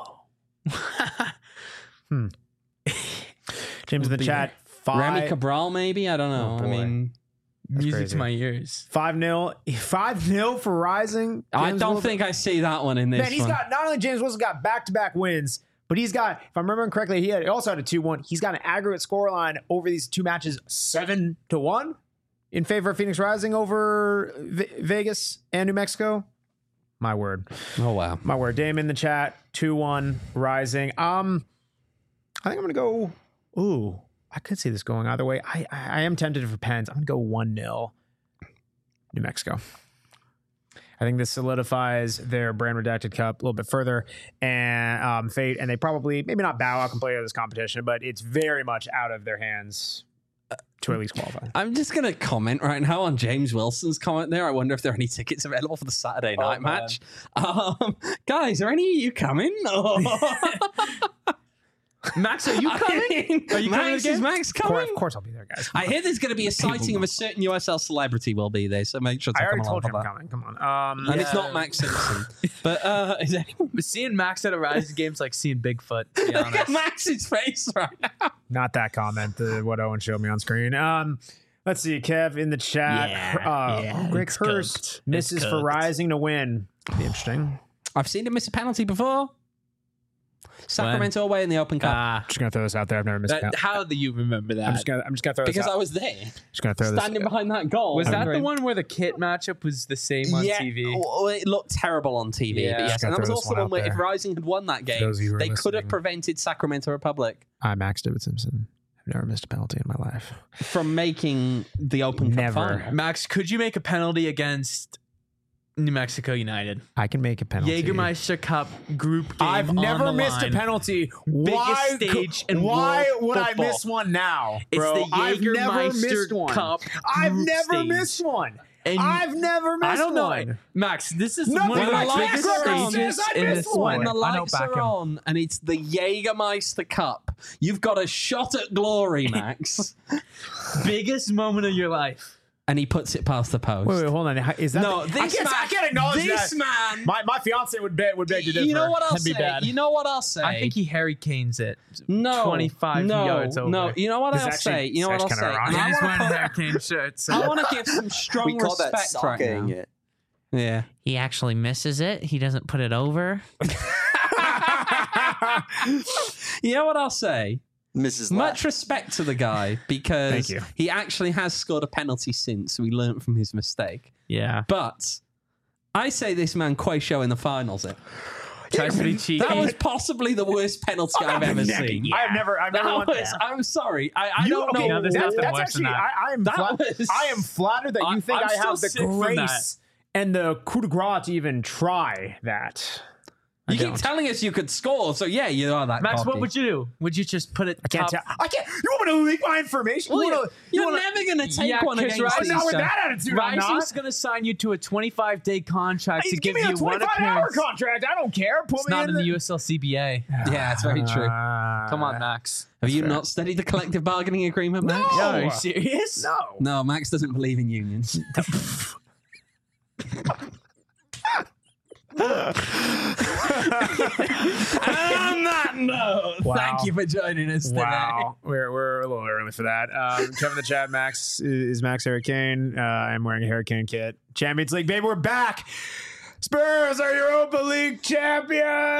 James in the Would be chat. Five, Remy Cabral, maybe. I don't know. Oh, I boy. mean, Music crazy. to my ears. five nil. five nil for Rising. I James don't Wilson. think I see that one in this Man, he's one. got not only James Wilson got back to back wins, but he's got, if I'm remembering correctly, he had he also had a two one. He's got an aggregate scoreline over these two matches seven to one. in favor of Phoenix Rising over v- Vegas and New Mexico. My word. Oh, wow. My word. Dame in the chat. two one Rising. Um, I think I'm going to go. Ooh, I could see this going either way. I, I, I am tempted for Pens. I'm going to go one nil New Mexico. I think this solidifies their brand redacted cup a little bit further and um, fate, and they probably maybe not bow out completely of this competition, but it's very much out of their hands to at least qualify. I'm just going to comment right now on James Wilson's comment there. I wonder if there are any tickets available for the Saturday night oh, match. Um, guys, are any of you coming? Max, are you coming? Are you Max, coming is Max Of coming? course, of course I'll be there, guys. I hear there's going to be a sighting of a certain U S L celebrity will be there, so make sure to I come already along told you for I'm that. coming. Come on. Um, And Yeah. it's not Max Simpson. But uh, is anyone... But seeing Max at a Rising game's like seeing Bigfoot, to be Look at honest. Max's face right now. Not that comment, the, what Owen showed me on screen. Um, let's see, Kev in the chat. Yeah, uh, yeah, Greg it's Hurst cooked. misses It's for cooked. Rising to win. Be interesting. I've seen him miss a penalty before. Sacramento away in the Open Cup. Ah, Just gonna throw this out there. I've never missed. a that, penalty. how do you remember that? I'm just gonna. I'm just gonna throw this because out. I was there, just gonna throw standing this. behind that goal. was that the Wondering- one where the kit matchup was the same on yeah, T V? well, it looked terrible on T V. Yeah. But yes, Just and gotta that was throw this also one one out where if there. Rising had won that game, those of you who are they could have listening. prevented Sacramento Republic I'm Max David Simpson. I've never missed a penalty in my life. from making the Open Cup Never. final. Max, could you make a penalty against New Mexico United? I can make a penalty. Jägermeister Cup group game. I've on never the missed line. a penalty. Why? stage could- in why world would I football. miss one now, bro? It's the I've never missed Jägermeister one. Cup. I've group never stage. missed one. And I've never missed I don't know, one. Max. This is Nothing one of the like biggest Jack Rogers stages says I in missed this one. When sport. the I know, lights back are him. on and it's the Jägermeister Cup, you've got a shot at glory, Max. Biggest moment of your life. And he puts it past the post. Wait, wait, hold on. Is that no, the, this I can't, man, I can't acknowledge this that. man. My my fiance would bet would beg to differ. You know what I'll That'd say? be bad. You know what I'll say? I think he Harry Kane's it. no, twenty-five no, yards over. No, you know what This is I'll actually- say? You know what I'll it's say? actually And I He's wanna wearing put- Harry Kane shirts. I want to give some strong We call that respect right socking now. it. Yeah. He actually misses it. He doesn't put it over. You know what I'll say? Missus Much Lash. respect to the guy because Thank you. he actually has scored a penalty since, so he learned from his mistake. Yeah. But I say this man Quayshow in the finals. It Tries to be cheeky. that was possibly the worst penalty I've ever seen. I've never, I've never That won. was, I'm sorry. I, I You- don't okay, know. no, there's that's, nothing that's worse actually, than that. I, I am, That flat, was- I am flattered that you I- think I'm I still have the sick from that. grace and the coup de grace to even try that. I You keep don't. telling us you could score, so yeah, you are that. Max, cocky. what would you do? Would you just put it? I can't top? tell. I can't. You want me to leak my information? Well, you you're wanna, you're you wanna, never going to take Yeah, one 'cause against Rising- these not with guys. that attitude. I'm Rising's not. going to sign you to a twenty-five day contract to Hey, give give me a you one twenty-five hour appearance. contract. I don't care. Put It's me not in the the U S L C B A. Yeah, it's very true. Uh, Come on, Max. Have you fair. not studied the collective bargaining agreement, Max? No. Are you serious? No. No, Max doesn't believe in unions. On that note, Wow. thank you for joining us today. Wow, we're we're a little early for that. Um, Kevin in the chat, Max is Max Hurricane. Uh, I'm wearing a Hurricane kit. Champions League, baby, we're back. Spurs are Europa League champions.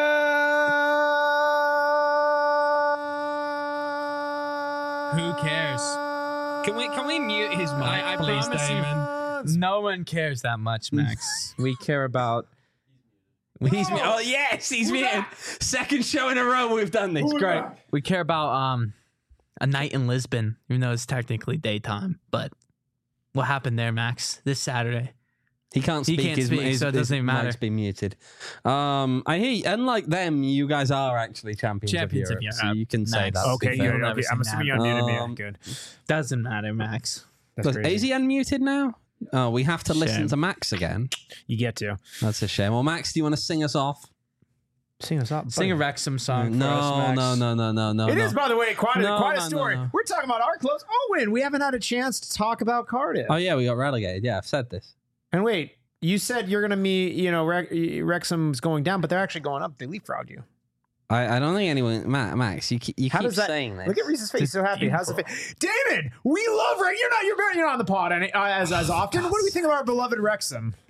Who cares? Can we can we mute his mic, I, I please, promise Damon? you, no one cares that much, Max. we care about. He's mu- oh yes, he's muted. Second show in a row we've done this. Great. We care about um a night in Lisbon, even though it's technically daytime. But what happened there, Max? This Saturday. He can't He speak. can't his, speak, his, so it his doesn't even matter. mic's been muted. Um, I hear. You, unlike them, you guys are actually champions, Champions of of Europe, so Europe. you can say Nice. that. to Okay, be you, fair. You'll never okay, I'm see assuming that. you unmuted me. Um, Good. Doesn't matter, Max. That's Look, crazy. is he unmuted now? Oh, we have to listen Shame. to Max again. You get to That's a shame. Well, Max, do you want to sing us off? sing us up. Sing a Wrexham song for no, us, Max. no, no, no, no, no. It no. is, by the way, quite a, No, quite a no, no, story. no. We're talking about our clubs. Owen, we haven't had a chance to talk about Cardiff. Oh yeah, we got relegated. Yeah, I've said this. And wait, you said you're going to meet, you know, Rex, Wrexham's going down, but they're actually going up. They leapfrogged you. I, I don't think anyone. Ma- Max, you keep, you How keep does that saying this. Look at Reese's face. He's so happy. How's the face? David, we love Rex. You're not. You're, you're not on the pod any, uh, as as often. What do we think of our beloved Wrexham?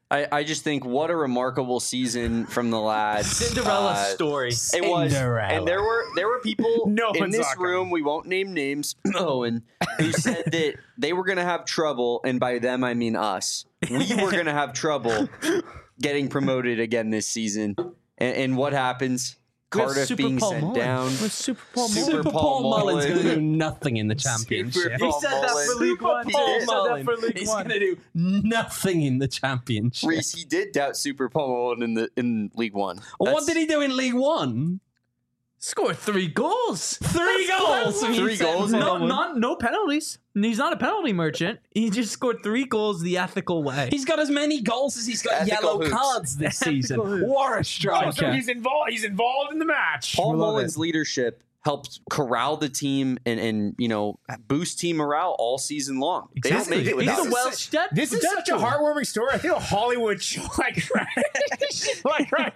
I, I just think what a remarkable season from the lads. Cinderella Uh, story. It was, and there were there were people No in one's this talking. room. We won't name names. Owen, who said that they were going to have trouble, and by them I mean us. We were going to have trouble getting promoted again this season. And, and what happens? We have Cardiff Super being Paul sent Mullen. down. We have Super Paul Super Mullen. Super Paul Paul Mullen's Mullen. going to do nothing in the championship. Super He Paul said that for Mullen. League One. He He did. said that for League He's One. going to do nothing in the championship. Reese, he did doubt Super Paul Mullen in the in League One. Well, what That's- did he do in League One? Scored three goals. Three goals. He Three said goals? No, No, not no penalties. He's not a penalty merchant. He just scored three goals the ethical way. He's got as many goals as he's got Ethical yellow hoops. cards this Ethical season. hoops. What a Oh, striker. so he's involved. He's involved in the match. Paul We love Mullen's it. leadership helped corral the team and, and you know boost team morale all season long. They don't make it He's without a him. Welsh debt. This is such a heartwarming story. I feel Hollywood like like right.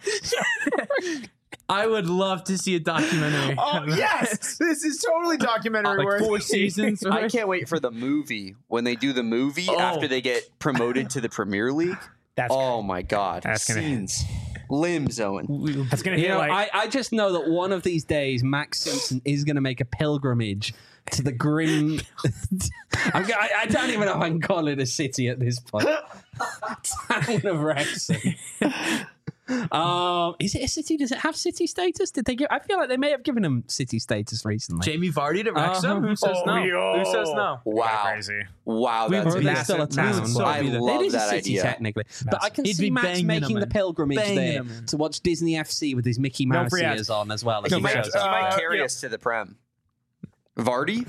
I would love to see a documentary. Oh yes, this is totally documentary like worthy. four seasons. I can't wait for the movie when they do the movie Oh. after they get promoted to the Premier League. That's Oh my God, That's gonna- scenes, limbs, Owen. that's gonna You hit know, like I, I just know that one of these days, Max Simpson is going to make a pilgrimage to the grim. I'm, go- I, I don't even know if I can call it a city at this point. Town of Wrexham. Um, is it a city? Does it have city status? Did they give? I feel like they may have given him city status recently. Jamie Vardy to Wrexham. Uh-huh. Who says Oh, no? yo. Who says no? Wow, crazy. wow, We've that's heard amazing. it's still a Massive- town. massive so I it'd be- love it is that a city idea. technically, but I can He'd see be Max banging making them the in. pilgrimage Banging there them in. to watch Disney F C with his Mickey No Mouse free ads. ears on as well. As No he He free might, shows ads. he up. might Uh, carry yeah. us to the Prem. Vardy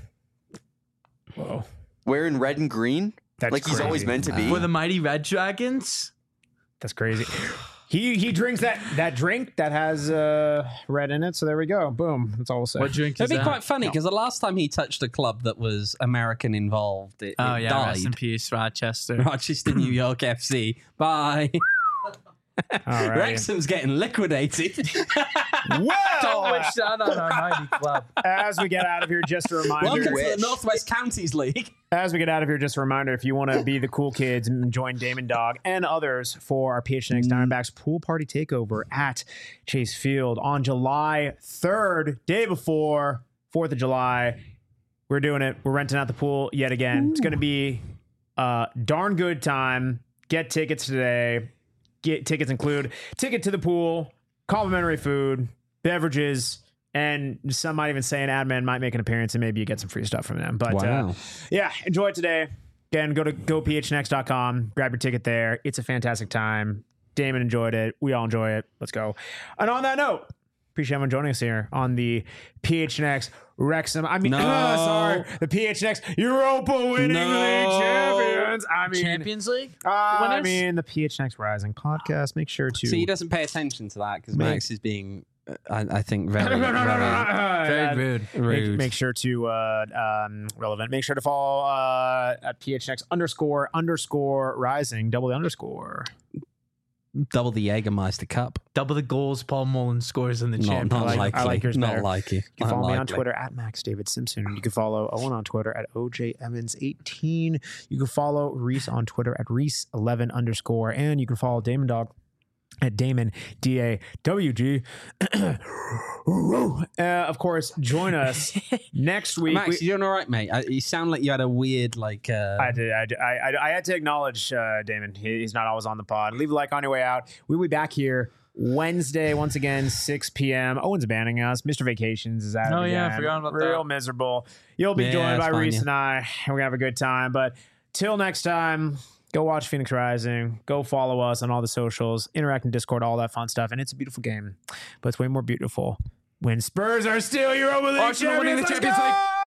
Whoa, wearing red and green, that's like he's crazy. always meant to be. For the mighty Red Dragons. That's crazy. He he drinks that that drink that has uh, red in it. So there we go. Boom. That's all we'll say. What drink is It'd be that? quite funny because the last time he touched a club that was American involved, it, Oh it yeah, died. rest in peace, Rochester. Rochester, New York F C. Bye. All right. Wrexham's getting liquidated. Don't Well, wish that on our mighty club. as we get out of here, just a reminder. Welcome to wish. the Northwest Counties League. As we get out of here, just a reminder, if you want to be the cool kids and join Damon Dog and others for our P H N X Diamondbacks pool party takeover at Chase Field on July third, day before fourth of July. We're doing it. We're renting out the pool yet again. It's going to be a darn good time. Get tickets today. Get tickets include ticket to the pool, complimentary food, beverages, and some might even say an admin might make an appearance and maybe you get some free stuff from them. But uh, Wow. yeah, enjoy it today. Again, go to go p h n x dot com, grab your ticket there. It's a fantastic time. Damon enjoyed it. We all enjoy it. Let's go. And on that note, appreciate everyone joining us here on the P H N X Wrexham. I mean, No. uh, sorry, the P H N X Europa winning No. league champions. I mean, Champions League? uh, I winners? mean, the P H N X Rising podcast. Make sure to. See, he doesn't pay attention to that because Make- Max is being, uh, I, I think, very, No, no, no, no, no, no, very no. rude. Make, rude. make sure to uh, um, relevant. Make sure to follow uh, at P H N X underscore underscore rising double the underscore. Double the Jägermeister Cup. Double the goals Paul Mullen scores in the Not, champions. not I like- likely. I like yours not better. likely. You can Not follow me on likely. Twitter at Max David Simpson. You can follow Owen on Twitter at O J Evans eighteen. You can follow Reese on Twitter at Reese eleven underscore. And you can follow Damon Dog at Damon D A W G. uh, of course, join us next week. Max, We- you doing all right, mate? I, you sound like you had a weird, like, uh, I did. I, did- I, I, I had to acknowledge uh, Damon. He, he's not always on the pod. Leave a like on your way out. We'll be back here Wednesday once again, six p.m. Owen's banning us. Mister Vacations is out. Oh, yeah, I again. forgot about Real that. miserable. You'll be Yeah, joined it's by fine, Reese yeah. and I. And we're gonna have a good time. But till next time, go watch Phoenix Rising. Go follow us on all the socials, interact in Discord, all that fun stuff. And it's a beautiful game, but it's way more beautiful when Spurs are still Europa League Arsenal winning champions. the Let's Champions League. go!